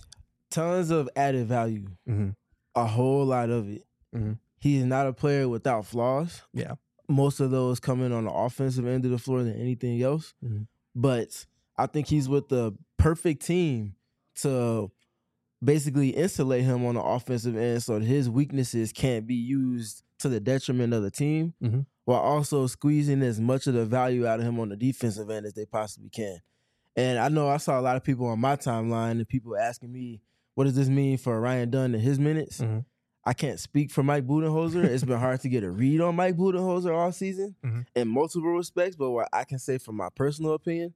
Tons of added value. Mm-hmm. A whole lot of it. Mm-hmm. He is not a player without flaws. Yeah. Most of those coming on the offensive end of the floor than anything else. Mm-hmm. But I think he's with the perfect team to basically insulate him on the offensive end so that his weaknesses can't be used to the detriment of the team, mm-hmm. while also squeezing as much of the value out of him on the defensive end as they possibly can. And I know I saw a lot of people on my timeline and people asking me, what does this mean for Ryan Dunn and his minutes? Mm-hmm. I can't speak for Mike Budenholzer. It's been hard to get a read on Mike Budenholzer all season mm-hmm. in multiple respects. But what I can say from my personal opinion,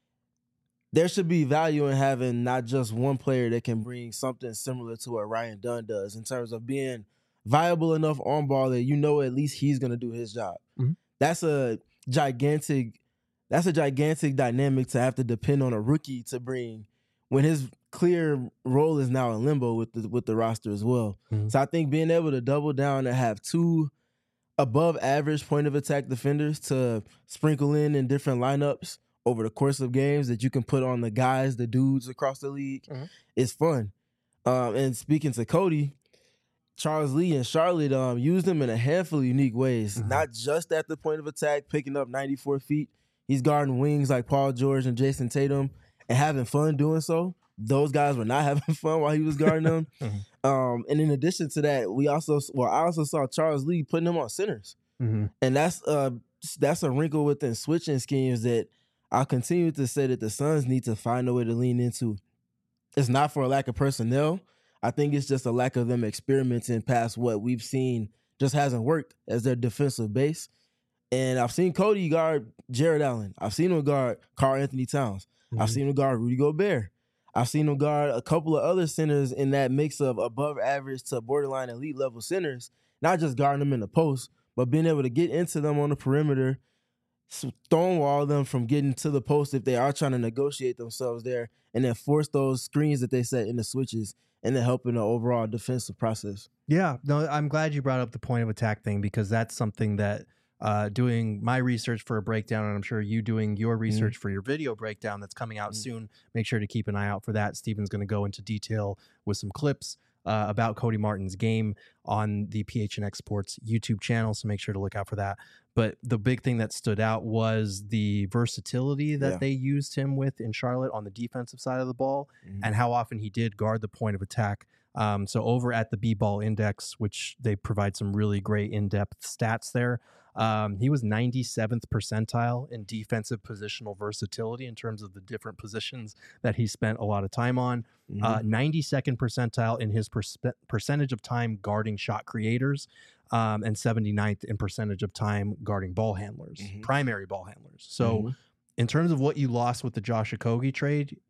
there should be value in having not just one player that can bring something similar to what Ryan Dunn does in terms of being viable enough on ball that you know at least he's going to do his job. Mm-hmm. That's a gigantic, that's a gigantic dynamic to have to depend on a rookie to bring when his clear role is now in limbo with the with the roster as well. Mm-hmm. So I think being able to double down and have two above average point of attack defenders to sprinkle in in different lineups over the course of games that you can put on the guys, the dudes across the league, mm-hmm. is fun. Um, and speaking to Cody, Charles Lee and Charlotte um, used him in a handful of unique ways, mm-hmm. not just at the point of attack, picking up ninety-four feet. He's guarding wings like Paul George and Jason Tatum and having fun doing so. Those guys were not having fun while he was guarding them. mm-hmm. um, and in addition to that, we also well, I also saw Charles Lee putting them on centers. Mm-hmm. And that's uh that's a wrinkle within switching schemes that I'll continue to say that the Suns need to find a way to lean into. It's not for a lack of personnel. I think it's just a lack of them experimenting past what we've seen just hasn't worked as their defensive base. And I've seen Cody guard Jared Allen. I've seen him guard Karl Anthony Towns. Mm-hmm. I've seen him guard Rudy Gobert. I've seen him guard a couple of other centers in that mix of above average to borderline elite level centers, not just guarding them in the post, but being able to get into them on the perimeter, stonewall them from getting to the post if they are trying to negotiate themselves there, and then force those screens that they set in the switches and then helping the overall defensive process. Yeah, no, I'm glad you brought up the point of attack thing because that's something that Uh, doing my research for a breakdown, and I'm sure you doing your research mm-hmm. for your video breakdown that's coming out mm-hmm. soon. Make sure to keep an eye out for that. Steven's going to go into detail with some clips uh, about Cody Martin's game on the P H N X Sports YouTube channel, so make sure to look out for that. But the big thing that stood out was the versatility that yeah. they used him with in Charlotte on the defensive side of the ball mm-hmm. and how often he did guard the point of attack. Um, so over at the B-Ball Index, which they provide some really great in-depth stats there, Um, he was ninety-seventh percentile in defensive positional versatility in terms of the different positions that he spent a lot of time on. Mm-hmm. Uh, ninety-second percentile in his per- percentage of time guarding shot creators, um, and seventy-ninth in percentage of time guarding ball handlers, mm-hmm. primary ball handlers. So mm-hmm. in terms of what you lost with the Josh Okogie trade,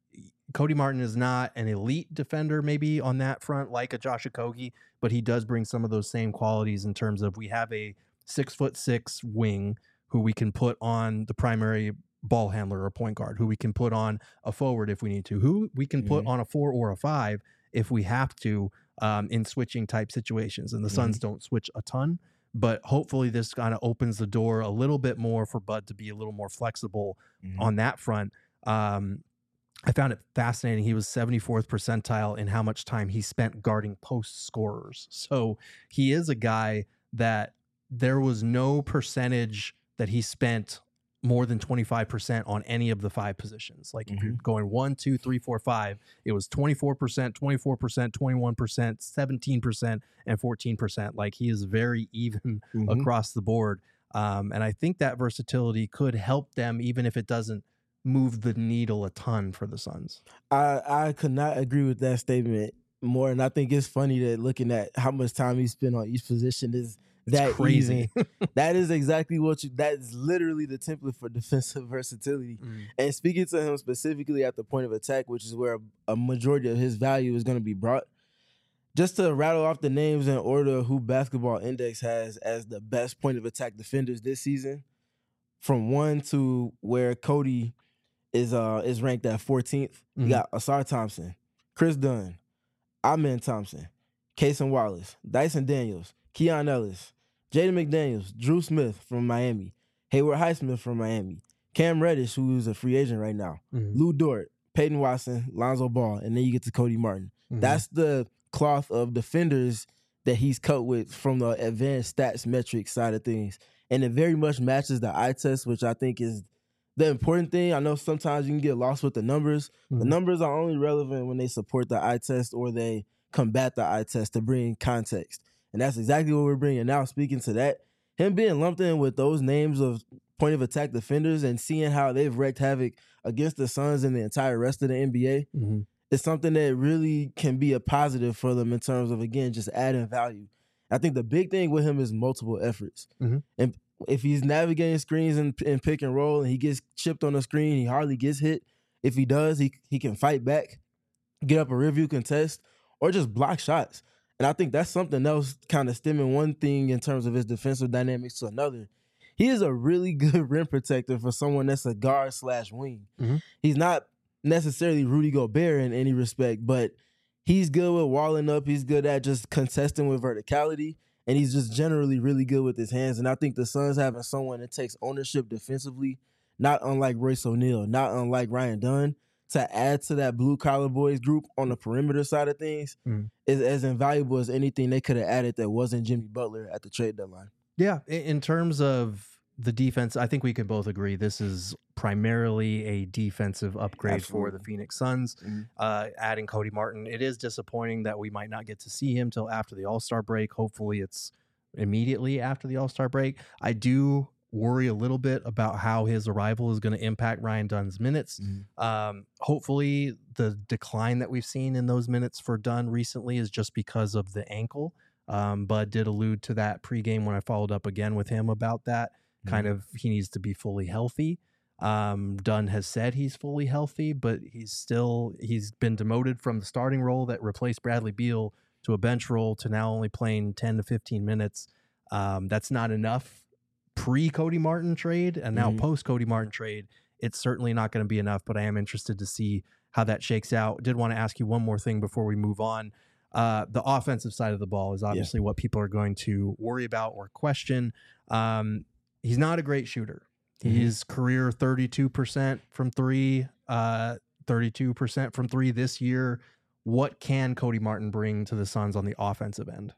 Cody Martin is not an elite defender maybe on that front like a Josh Okogie, but he does bring some of those same qualities in terms of we have a six foot six wing who we can put on the primary ball handler or point guard, who we can put on a forward if we need to, who we can put Mhm. on a four or a five if we have to um, in switching type situations. And the Suns Mm-hmm. don't switch a ton, but hopefully this kind of opens the door a little bit more for Bud to be a little more flexible Mhm. on that front. Um, I found it fascinating. He was seventy-fourth percentile in how much time he spent guarding post scorers. So he is a guy that there was no percentage that he spent more than twenty-five percent on any of the five positions. Like if you're going one, two, three, four, five, it was twenty-four percent, twenty-four percent, twenty-one percent, seventeen percent, and fourteen percent. Like he is very even Mhm. across the board. Um, and I think that versatility could help them, even if it doesn't move the needle a ton for the Suns. I I could not agree with that statement more, and I think it's funny that looking at how much time he spent on each position is that crazy. even. That is exactly what you. That is literally the template for defensive versatility. And speaking to him specifically at the point of attack, which is where a, a majority of his value is going to be brought. Just to rattle off the names in order who Basketball Index has as the best point of attack defenders this season, from one to where Cody is uh is ranked at fourteenth. You Mhm. got Asar Thompson, Chris Dunn, Amen Thompson, Cason Wallace, Dyson Daniels, Keon Ellis, Jaden McDaniels, Drew Smith from Miami, Hayward Highsmith from Miami, Cam Reddish, who is a free agent right now, Mhm. Lou Dort, Peyton Watson, Lonzo Ball, and then you get to Cody Martin. Mhm. That's the cloth of defenders that he's cut with from the advanced stats metrics side of things. And it very much matches the eye test, which I think is the important thing. I know sometimes you can get lost with the numbers. The Mhm. numbers are only relevant when they support the eye test or they combat the eye test to bring context. And that's exactly what we're bringing. Now, speaking to that, him being lumped in with those names of point of attack defenders and seeing how they've wreaked havoc against the Suns and the entire rest of the N B A Mhm. is something that really can be a positive for them in terms of, again, just adding value. I think the big thing with him is multiple efforts. Mhm. And if he's navigating screens and, and pick and roll and he gets chipped on the screen, he hardly gets hit. If he does, he he can fight back, get up a review contest, or just block shots. And I think that's something else kind of stemming one thing in terms of his defensive dynamics to another. He is a really good rim protector for someone that's a guard slash wing. Mhm. He's not necessarily Rudy Gobert in any respect, but he's good with walling up. He's good at just contesting with verticality, and he's just generally really good with his hands. And I think the Suns having someone that takes ownership defensively, not unlike Royce O'Neal, not unlike Ryan Dunn, to add to that blue-collar boys group on the perimeter side of things Mhm. is as invaluable as anything they could have added that wasn't Jimmy Butler at the trade deadline. Yeah, i- in terms of the defense, I think we can both agree this is primarily a defensive upgrade for the Absolutely. Phoenix Suns. Mhm. Uh, adding Cody Martin, it is disappointing that we might not get to see him till after the All-Star break. Hopefully, it's immediately after the All-Star break. I do worry a little bit about how his arrival is going to impact Ryan Dunn's minutes. Mhm. Um, hopefully, the decline that we've seen in those minutes for Dunn recently is just because of the ankle. Um, Bud did allude to that pregame when I followed up again with him about that. Kind of, he needs to be fully healthy. Um, Dunn has said he's fully healthy, but he's still, he's been demoted from the starting role that replaced Bradley Beal to a bench role to now only playing ten to fifteen minutes. Um, that's not enough pre Cody Martin trade, and now Mhm. post Cody Martin trade, it's certainly not going to be enough, but I am interested to see how that shakes out. Did want to ask you one more thing before we move on. Uh, the offensive side of the ball is obviously what people are going to worry about or question. Um, he's not a great shooter. Mhm. He's career thirty-two percent from three, uh, thirty-two percent from three this year. What can Cody Martin bring to the Suns on the offensive end?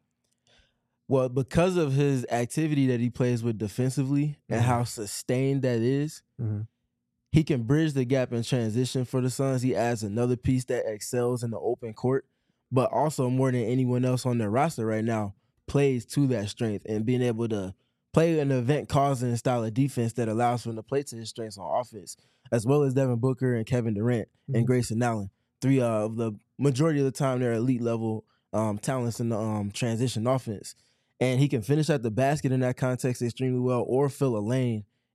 Well, because of his activity that he plays with defensively and Mhm. how sustained that is, Mhm. he can bridge the gap in transition for the Suns. He adds another piece that excels in the open court, but also more than anyone else on their roster right now, plays to that strength and being able to play an event-causing style of defense that allows him to play to his strengths on offense, as well as Devin Booker and Kevin Durant Mhm. and Grayson Allen. Three uh, of the majority of the time they're elite level um, talents in the um, transition offense. And he can finish at the basket in that context extremely well or fill a lane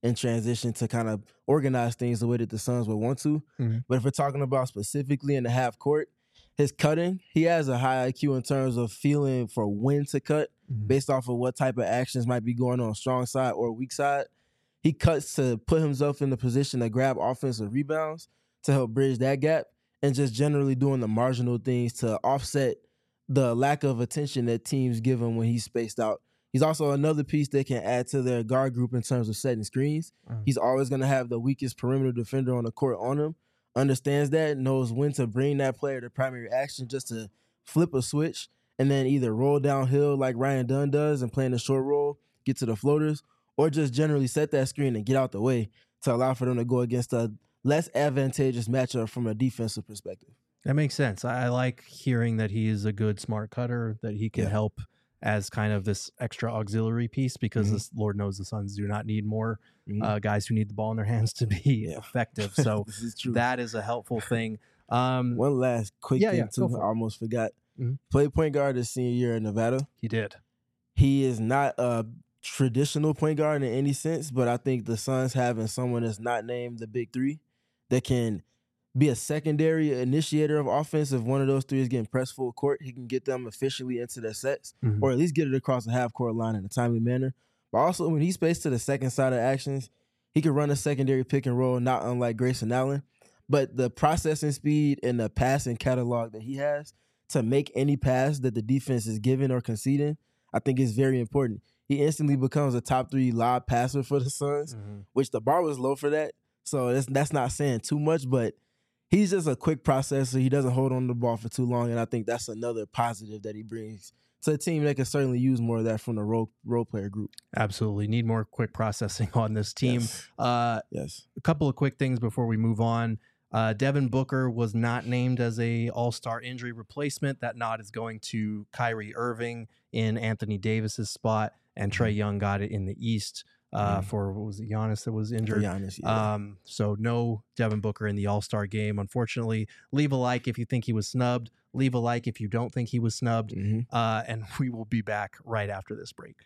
in transition to kind of organize things the way that the Suns would want to. Mm-hmm. But if we're talking about specifically in the half court, his cutting, he has a high I Q in terms of feeling for when to cut Mm-hmm. based off of what type of actions might be going on strong side or weak side. He cuts to put himself in the position to grab offensive rebounds to help bridge that gap, and just generally doing the marginal things to offset the lack of attention that teams give him when he's spaced out. He's also another piece that can add to their guard group in terms of setting screens. Mm. He's always going to have the weakest perimeter defender on the court on him, understands that, knows when to bring that player to primary action just to flip a switch and then either roll downhill like Ryan Dunn does and play in the short roll, get to the floaters, or just generally set that screen and get out the way to allow for them to go against a less advantageous matchup from a defensive perspective. That makes sense. I I like hearing that he is a good smart cutter, that he can Yeah. help as kind of this extra auxiliary piece, because Mhm. this, Lord knows the Suns do not need more Mhm. uh, guys who need the ball in their hands to be Yeah. effective. So This is true. that is a helpful thing. Um, One last quick Yeah, thing, yeah, go too. for I it. almost forgot. Mhm. Played point guard his senior year in Nevada. he did. He is not a traditional point guard in any sense, but I think the Suns having someone that's not named the big three that can be a secondary initiator of offense. If one of those three is getting pressed full court, he can get them efficiently into their sets, Mhm. or at least get it across the half court line in a timely manner. But also, when he's spaced to the second side of actions, he can run a secondary pick and roll, not unlike Grayson Allen. But the processing speed and the passing catalog that he has to make any pass that the defense is giving or conceding, I think is very important. He instantly becomes a top three lob passer for the Suns, Mhm. which the bar was low for that. So that's, that's not saying too much, but he's just a quick processor. He doesn't hold on to the ball for too long, and I think that's another positive that he brings to a team that can certainly use more of that from the role, role player group. Absolutely. Need more quick processing on this team. Yes. Uh, Yes. a couple of quick things before we move on. Uh, Devin Booker was not named as a all-star injury replacement. That nod is going to Kyrie Irving in Anthony Davis's spot, and Trae Young got it in the East uh, Mhm. for, what was it, Giannis that was For injured. Giannis, yeah. Um, so no Devin Booker in the All-Star game, unfortunately. Leave a like if you think he was snubbed. Leave a like if you don't think he was snubbed. Mhm. Uh, and we will be back right after this break.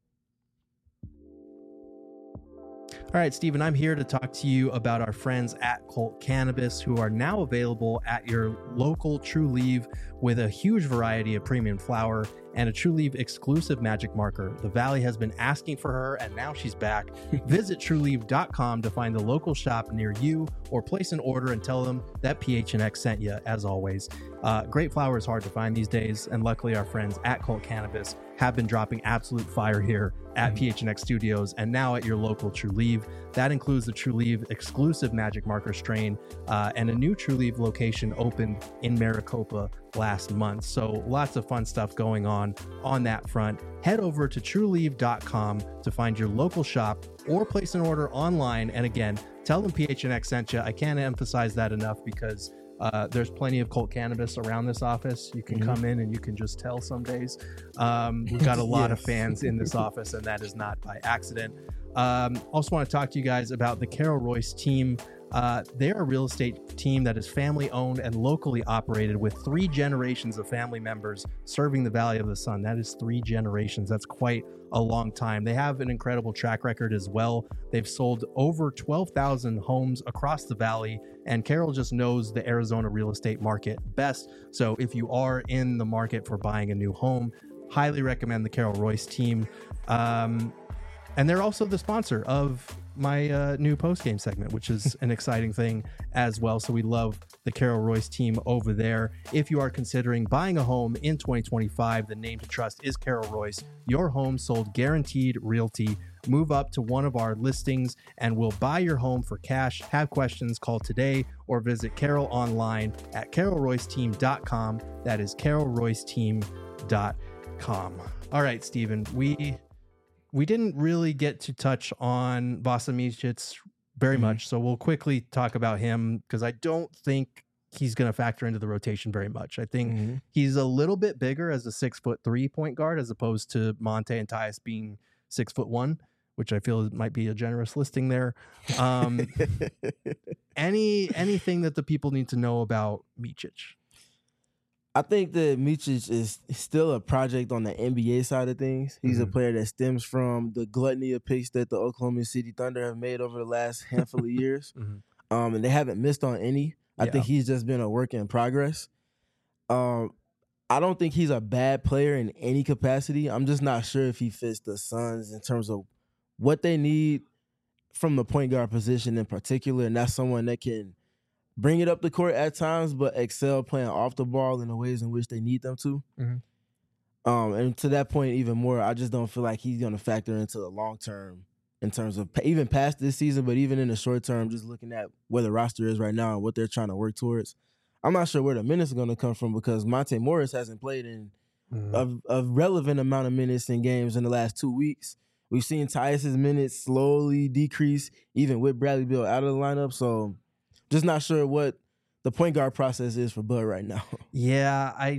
All right, Stephen, I'm here to talk to you about our friends at Colt Cannabis, who are now available at your local True Leaf with a huge variety of premium flower and a True Leaf exclusive magic marker. The Valley has been asking for her, and now she's back. Visit true leaf dot com to find the local shop near you, or place an order and tell them that P H N X sent you, as always. Uh, great flower is hard to find these days, and luckily our friends at Colt Cannabis have been dropping absolute fire here at P H N X Studios and now at your local True Leaf. That includes the True Leaf exclusive magic marker strain, uh, and a new True Leaf location opened in Maricopa last month. So lots of fun stuff going on on that front. Head over to true leaf dot com to find your local shop or place an order online. And again, tell them P H N X sent you. I can't emphasize that enough, because Uh, there's plenty of Colt Cannabis around this office. You can Mhm. come in and you can just tell some days. Um, we've got a lot of Yes. fans in this office, and that is not by accident. Um, also want to talk to you guys about the Carol Royce team. Uh, they're a real estate team that is family owned and locally operated, with three generations of family members serving the Valley of the Sun. That is three generations. That's quite a long time. They have an incredible track record as well. They've sold over twelve thousand homes across the Valley, and Carol just knows the Arizona real estate market best. So if you are in the market for buying a new home, highly recommend the Carol Royce team. Um, and they're also the sponsor of my uh, new post-game segment, which is an exciting thing as well. So we love the Carol Royce team over there. If you are considering buying a home in twenty twenty-five, the name to trust is Carol Royce. Your home sold guaranteed realty. Move up to one of our listings and we'll buy your home for cash. Have questions, call today or visit Carol online at carol royce team dot com. That is carol royce team dot com. All right, Stephen, we we didn't really get to touch on Vasa Micic very Mhm. much, so we'll quickly talk about him because I don't think he's going to factor into the rotation very much. I think Mhm. he's a little bit bigger as a six foot three point guard as opposed to Monte and Tyus being six foot one, which I feel might be a generous listing there. Um, any anything that the people need to know about Micic? I think that Micic is still a project on the N B A side of things. He's a Mhm. player that stems from the gluttony of picks that the Oklahoma City Thunder have made over the last handful of years. Mhm. Um, and they haven't missed on any. I Yeah. think he's just been a work in progress. Um, I don't think he's a bad player in any capacity. I'm just not sure if he fits the Suns in terms of what they need from the point guard position in particular, and that's someone that can bring it up the court at times, but excel playing off the ball in the ways in which they need them to. Mhm. Um, and to that point, even more, I just don't feel like he's going to factor into the long term in terms of even past this season, but even in the short term, just looking at where the roster is right now and what they're trying to work towards. I'm not sure where the minutes are going to come from because Monte Morris hasn't played in Mhm. a, a relevant amount of minutes in games in the last two weeks. We've seen Tyus's minutes slowly decrease, even with Bradley Beal out of the lineup. So just not sure what the point guard process is for Bud right now. Yeah, I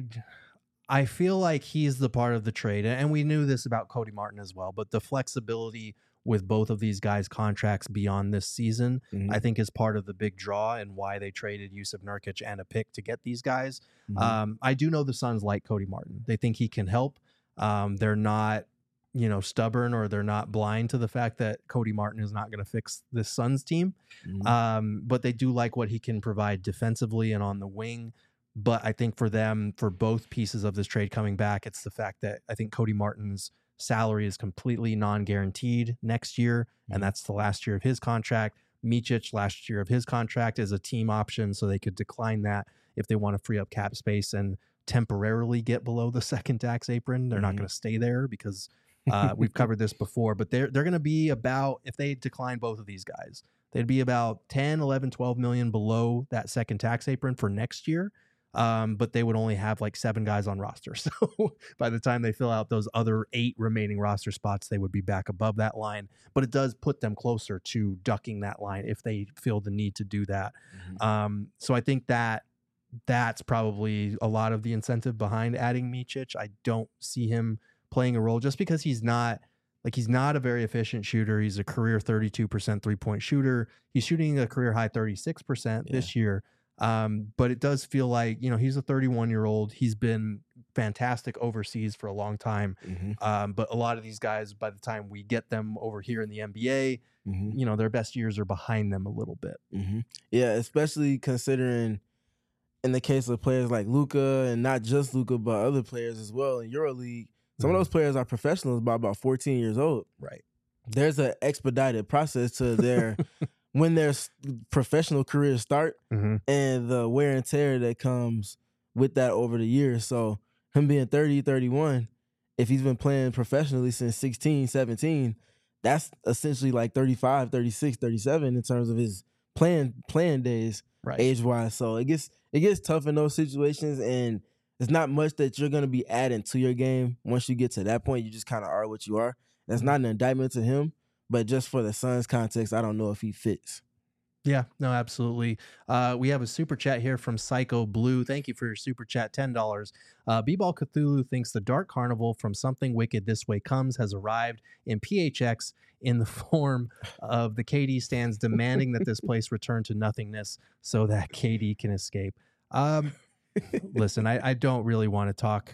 I feel like he's the part of the trade, and we knew this about Cody Martin as well. But the flexibility with both of these guys' contracts beyond this season, Mhm. I think, is part of the big draw and why they traded Yusuf Nurkic and a pick to get these guys. Mhm. Um, I do know the Suns like Cody Martin; they think he can help. Um, they're not, you know, stubborn or they're not blind to the fact that Cody Martin is not going to fix this Suns team. Mhm. Um, but they do like what he can provide defensively and on the wing. But I think for them, for both pieces of this trade coming back, it's the fact that I think Cody Martin's salary is completely non-guaranteed next year, and that's the last year of his contract. Micic, last year of his contract, is a team option, so they could decline that if they want to free up cap space and temporarily get below the second tax apron. They're not Mhm. going to stay there because uh, we've covered this before, but they're they're going to be about, if they decline both of these guys, they'd be about ten, eleven, twelve million below that second tax apron for next year. Um, but they would only have like seven guys on roster. So by the time they fill out those other eight remaining roster spots, they would be back above that line. But it does put them closer to ducking that line if they feel the need to do that. Mhm. Um, so I think that that's probably a lot of the incentive behind adding Micic. I don't see him playing a role just because he's not like he's not a very efficient shooter. He's a career thirty-two percent three-point shooter. He's shooting a career high thirty-six percent this year. Um, but it does feel like, you know, he's a thirty-one year old. He's been fantastic overseas for a long time. Mhm. Um, but a lot of these guys, by the time we get them over here in the N B A, Mhm. you know, their best years are behind them a little bit. Mhm. Yeah, especially considering in the case of players like Luka, and not just Luka, but other players as well in EuroLeague, some Mhm. of those players are professionals by about fourteen years old. Right. There's an expedited process to their when their s- professional careers start Mm-hmm. and the wear and tear that comes with that over the years. So him being thirty, thirty-one, if he's been playing professionally since sixteen, seventeen, that's essentially like thirty-five, thirty-six, thirty-seven in terms of his playing playing days Right. age wise. So it gets it gets tough in those situations, and it's not much that you're gonna be adding to your game once you get to that point. You just kind of are what you are. That's not an indictment to him, but just for the Suns context, I don't know if he fits. Yeah, no, absolutely. Uh, we have a super chat here from Psycho Blue. Thank you for your super chat, ten dollars. Uh, B-Ball Cthulhu thinks the Dark Carnival from Something Wicked This Way Comes has arrived in P H X in the form of the K D stands demanding that this place return to nothingness so that K D can escape. Um, listen, I, I don't really want to talk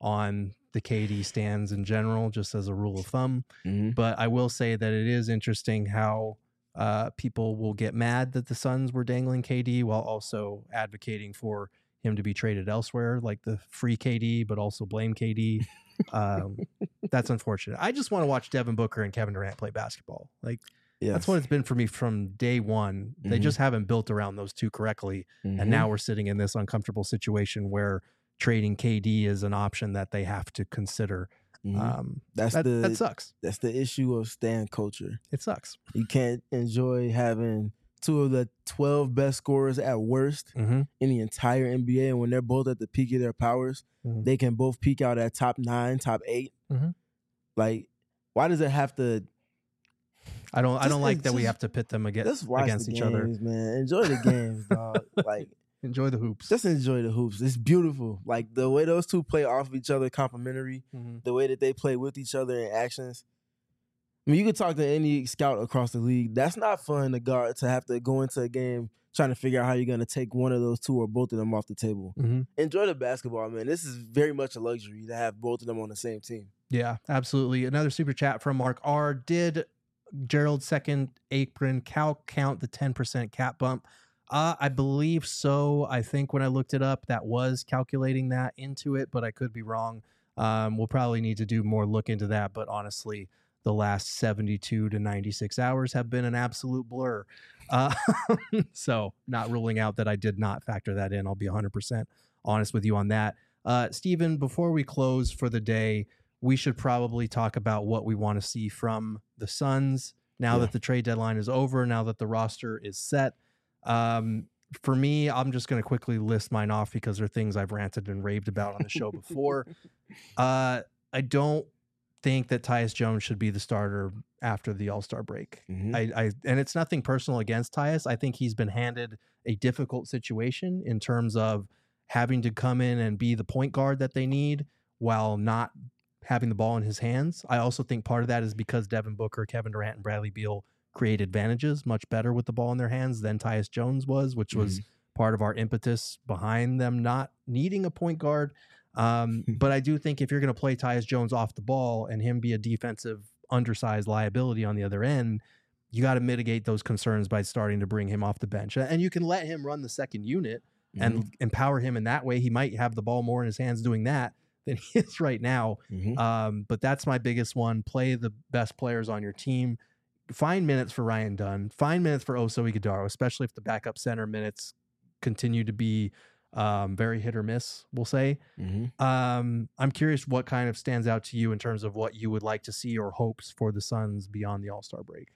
on the K D stands in general, just as a rule of thumb. Mhm. But I will say that it is interesting how uh, people will get mad that the Suns were dangling K D while also advocating for him to be traded elsewhere, like the free K D, but also blame K D. Um, that's unfortunate. I just want to watch Devin Booker and Kevin Durant play basketball. Like Yes. that's what it's been for me from day one. They Mhm. just haven't built around those two correctly, Mhm. and now we're sitting in this uncomfortable situation where trading K D is an option that they have to consider. Mhm. Um, that's that, the that sucks. that's the issue of stan culture. It sucks. You can't enjoy having two of the twelve best scorers at worst Mm-hmm. in the entire N B A, and when they're both at the peak of their powers, Mhm. they can both peak out at top nine, top 8 Mhm. Like, why does it have to? I don't. I Just- don't like that we just- have to pit them against Let's watch against the each games, other. man. Enjoy the games, dog. Like, Enjoy the hoops. just enjoy the hoops. It's beautiful. Like the way those two play off of each other, complimentary. Mhm. The way that they play with each other in actions. I mean, you could talk to any scout across the league. That's not fun to guard to have to go into a game trying to figure out how you're going to take one of those two or both of them off the table. Mm-hmm. Enjoy the basketball, man. This is very much a luxury to have both of them on the same team. Yeah, absolutely. Another super chat from Mark R. Did Gerald's second apron count count the ten percent cap bump? Uh, I believe so. I think when I looked it up, that was calculating that into it, but I could be wrong. Um, we'll probably need to do more look into that. But honestly, the last seventy-two to ninety-six hours have been an absolute blur. Uh, so not ruling out that I did not factor that in. I'll be one hundred percent honest with you on that. Uh, Steven, before we close for the day, we should probably talk about what we want to see from the Suns now yeah. that the trade deadline is over, now that the roster is set. Um, for me, I'm just going to quickly list mine off because they're things I've ranted and raved about on the show before. Uh, I don't think that Tyus Jones should be the starter after the All-Star break. Mm-hmm. I, I and it's nothing personal against Tyus. I think he's been handed a difficult situation in terms of having to come in and be the point guard that they need while not having the ball in his hands. I also think part of that is because Devin Booker, Kevin Durant, and Bradley Beal create advantages much better with the ball in their hands than Tyus Jones was, which mm-hmm. was part of our impetus behind them not needing a point guard. Um, but I do think if you're going to play Tyus Jones off the ball and him be a defensive undersized liability on the other end, you got to mitigate those concerns by starting to bring him off the bench. And you can let him run the second unit mm-hmm. and empower him in that way. He might have the ball more in his hands doing that than he is right now. Mm-hmm. Um, but that's my biggest one. Play the best players on your team. Find minutes for Ryan Dunn. Find minutes for Oso Ighodaro, especially if the backup center minutes continue to be um, very hit or miss, we'll say. Mm-hmm. Um, I'm curious what kind of stands out to you in terms of what you would like to see or hopes for the Suns beyond the All-Star break.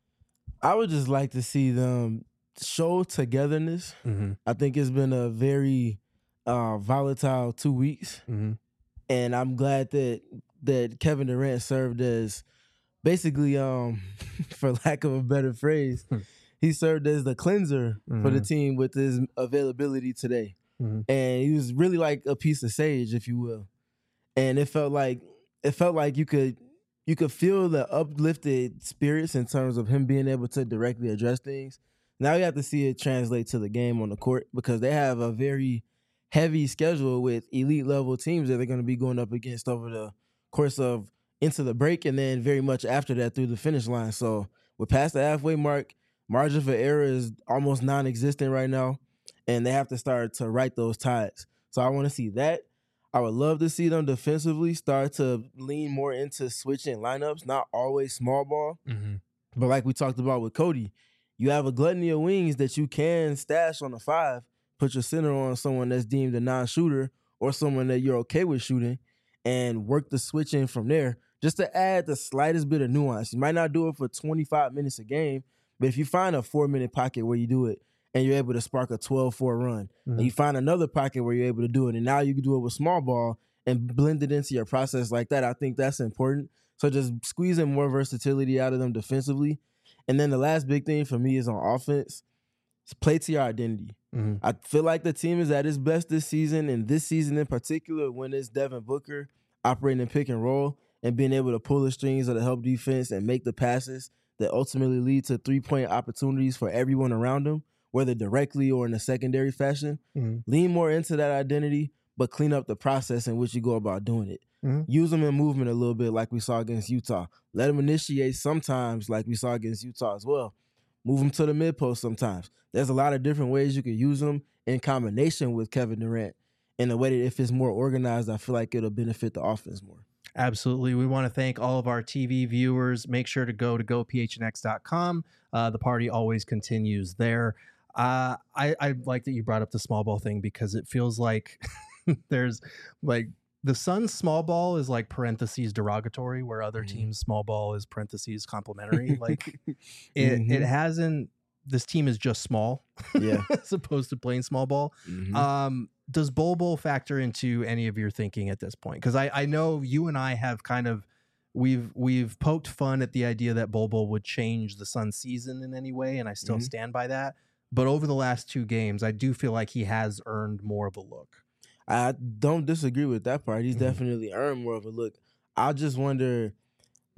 I would just like to see them show togetherness. Mm-hmm. I think it's been a very uh, volatile two weeks. Mm-hmm. And I'm glad that that Kevin Durant served as basically, um, for lack of a better phrase, he served as the cleanser mm-hmm. for the team with his availability today. Mm-hmm. And he was really like a piece of sage, if you will. And it felt like it felt like you could you could feel the uplifted spirits in terms of him being able to directly address things. Now you have to see it translate to the game on the court because they have a very heavy schedule with elite level teams that they're going to be going up against over the course of into the break and then very much after that through the finish line. So we're past the halfway mark. Margin for error is almost non-existent right now, and they have to start to right those tides. So I want to see that. I would love to see them defensively start to lean more into switching lineups, not always small ball. Mm-hmm. But like we talked about with Cody, you have a gluttony of wings that you can stash on the five, put your center on someone that's deemed a non-shooter or someone that you're okay with shooting, and work the switching from there just to add the slightest bit of nuance. You might not do it for twenty-five minutes a game, but if you find a four-minute pocket where you do it and you're able to spark a twelve four run, mm-hmm. and you find another pocket where you're able to do it, and now you can do it with small ball and blend it into your process like that, I think that's important. So just squeezing more versatility out of them defensively. And then the last big thing for me is on offense. It's play to your identity. Mm-hmm. I feel like the team is at its best this season, and this season in particular when it's Devin Booker operating in pick and roll and being able to pull the strings of the help defense and make the passes that ultimately lead to three-point opportunities for everyone around him, whether directly or in a secondary fashion. Mm-hmm. Lean more into that identity, but clean up the process in which you go about doing it. Mm-hmm. Use them in movement a little bit like we saw against Utah. Let them initiate sometimes like we saw against Utah as well. Move them to the mid-post sometimes. There's a lot of different ways you could use them in combination with Kevin Durant in a way that if it's more organized, I feel like it'll benefit the offense more. Absolutely. We want to thank all of our T V viewers. Make sure to go to go p h n x dot com. Uh, the party always continues there. Uh, I, I like that you brought up the small ball thing because it feels like there's like the Suns small ball is like parentheses derogatory where other Mm-hmm. teams small ball is parentheses complimentary. Like it, Mhm. it hasn't, this team is just small Yeah. as opposed to playing small ball. Mhm. Um, does Bol Bol factor into any of your thinking at this point? Because I, I know you and I have kind of we've we've poked fun at the idea that Bol Bol would change the Suns season in any way, and I still Mhm. stand by that. But over the last two games, I do feel like he has earned more of a look. I don't disagree with that part. He's Mhm. definitely earned more of a look. I just wonder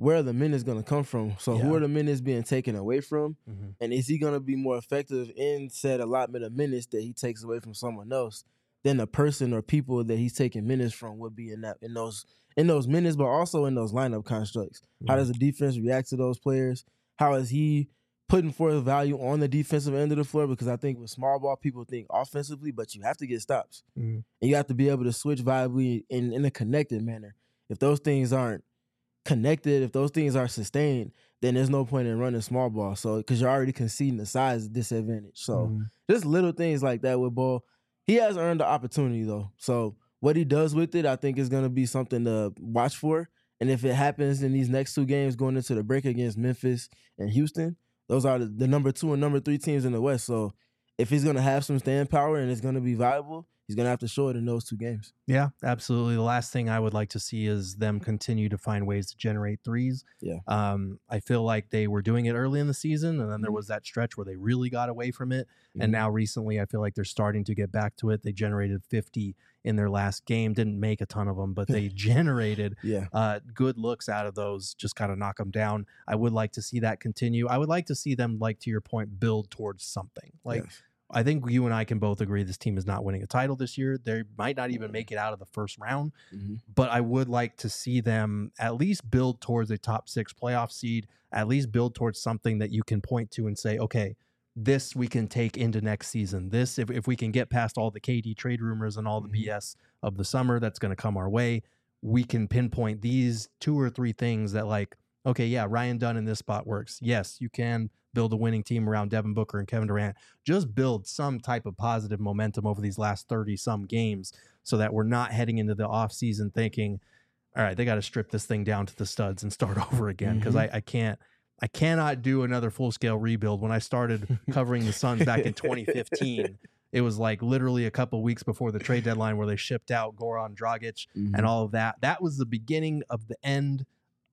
where are the minutes going to come from? So Yeah. who are the minutes being taken away from? Mm-hmm. And is he going to be more effective in said allotment of minutes that he takes away from someone else than the person or people that he's taking minutes from would be in that in those in those minutes, but also in those lineup constructs? How does the defense react to those players? How is he putting forth value on the defensive end of the floor? Because I think with small ball, people think offensively, but you have to get stops. Mm-hmm. And you have to be able to switch viably in, in a connected manner. If those things aren't connected, if those things are sustained, then there's no point in running small ball. So because you're already conceding the size disadvantage. So Mm-hmm. just little things like that with Ball. He has earned the opportunity though. So what he does with it, I think is going to be something to watch for. And if it happens in these next two games going into the break against Memphis and Houston, those are the, the number two and number three teams in the West. So if he's going to have some staying power and it's going to be viable, he's going to have to show it in those two games. Yeah, absolutely. The last thing I would like to see is them continue to find ways to generate threes. Yeah. Um, I feel like they were doing it early in the season, and then there was that stretch where they really got away from it. Mm-hmm. And now recently, I feel like they're starting to get back to it. They generated fifty in their last game. Didn't make a ton of them, but they generated Yeah. uh, good looks out of those, just kind of knock them down. I would like to see that continue. I would like to see them, like to your point, build towards something. Like, Yes. I think you and I can both agree this team is not winning a title this year. They might not even make it out of the first round, Mhm. but I would like to see them at least build towards a top six playoff seed, at least build towards something that you can point to and say, okay, this we can take into next season. This, if, if we can get past all the K D trade rumors and all the B S of the summer that's going to come our way, we can pinpoint these two or three things that, like, okay, yeah, Ryan Dunn in this spot works. Yes, you can build a winning team around Devin Booker and Kevin Durant. Just build some type of positive momentum over these last thirty-some games so that we're not heading into the offseason thinking, all right, they got to strip this thing down to the studs and start over again, because Mhm. I, I can't I cannot do another full-scale rebuild. When I started covering the Suns back in twenty fifteen, it was like literally a couple weeks before the trade deadline where they shipped out Goran Dragic Mhm. and all of that. That was the beginning of the end.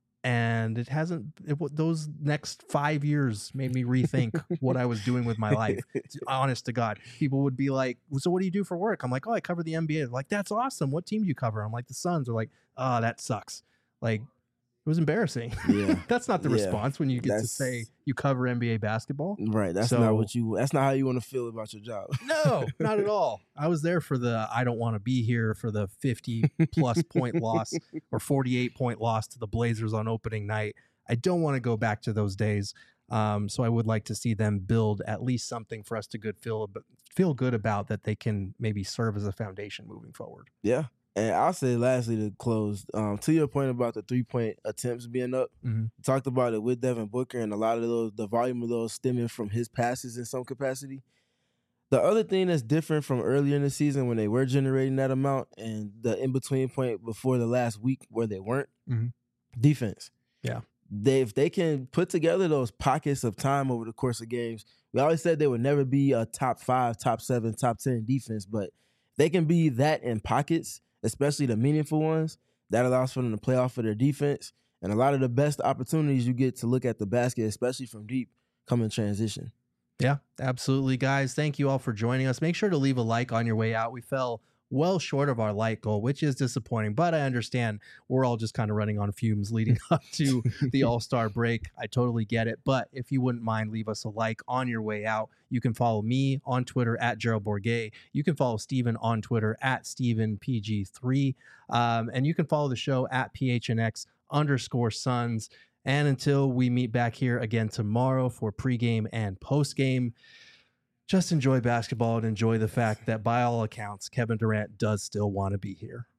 And it hasn't, it, those next five years made me rethink what I was doing with my life. Honest to God, people would be like, so what do you do for work? I'm like, oh, I cover the N B A. They're like, that's awesome. What team do you cover? I'm like, the Suns. They're like, oh, that sucks. Like, it was embarrassing. Yeah. That's not the Yeah. response when you get to That's- say you cover N B A basketball. Right. That's So- not what you, that's not how you want to feel about your job. No, not at all. I was there for the I don't want to be here for the fifty plus point loss or forty-eight point loss to the Blazers on opening night. I don't want to go back to those days. Um, so I would like to see them build at least something for us to good feel feel good about, that they can maybe serve as a foundation moving forward. Yeah. And I'll say lastly to close, um, to your point about the three-point attempts being up, Mhm. we talked about it with Devin Booker, and a lot of those, the volume of those stemming from his passes in some capacity. The other thing that's different from earlier in the season when they were generating that amount and the in-between point before the last week where they weren't, Mhm. defense. Yeah. They, if they can put together those pockets of time over the course of games, we always said they would never be a top five, top seven, top ten defense, but they can be that in pockets, especially the meaningful ones. That allows for them to play off of their defense. And a lot of the best opportunities you get to look at the basket, especially from deep, come in transition. Yeah, absolutely, guys. Thank you all for joining us. Make sure to leave a like on your way out. We fell well short of our like goal, which is disappointing, but I understand we're all just kind of running on fumes leading up to the All-Star break. I totally get it. But if you wouldn't mind, leave us a like on your way out. You can follow me on Twitter at Gerald Bourguet. You can follow Steven on Twitter at Steven P G three. Um, and you can follow the show at P H N X underscore Suns. And until we meet back here again tomorrow for pregame and postgame, just enjoy basketball and enjoy the fact that by all accounts, Kevin Durant does still want to be here.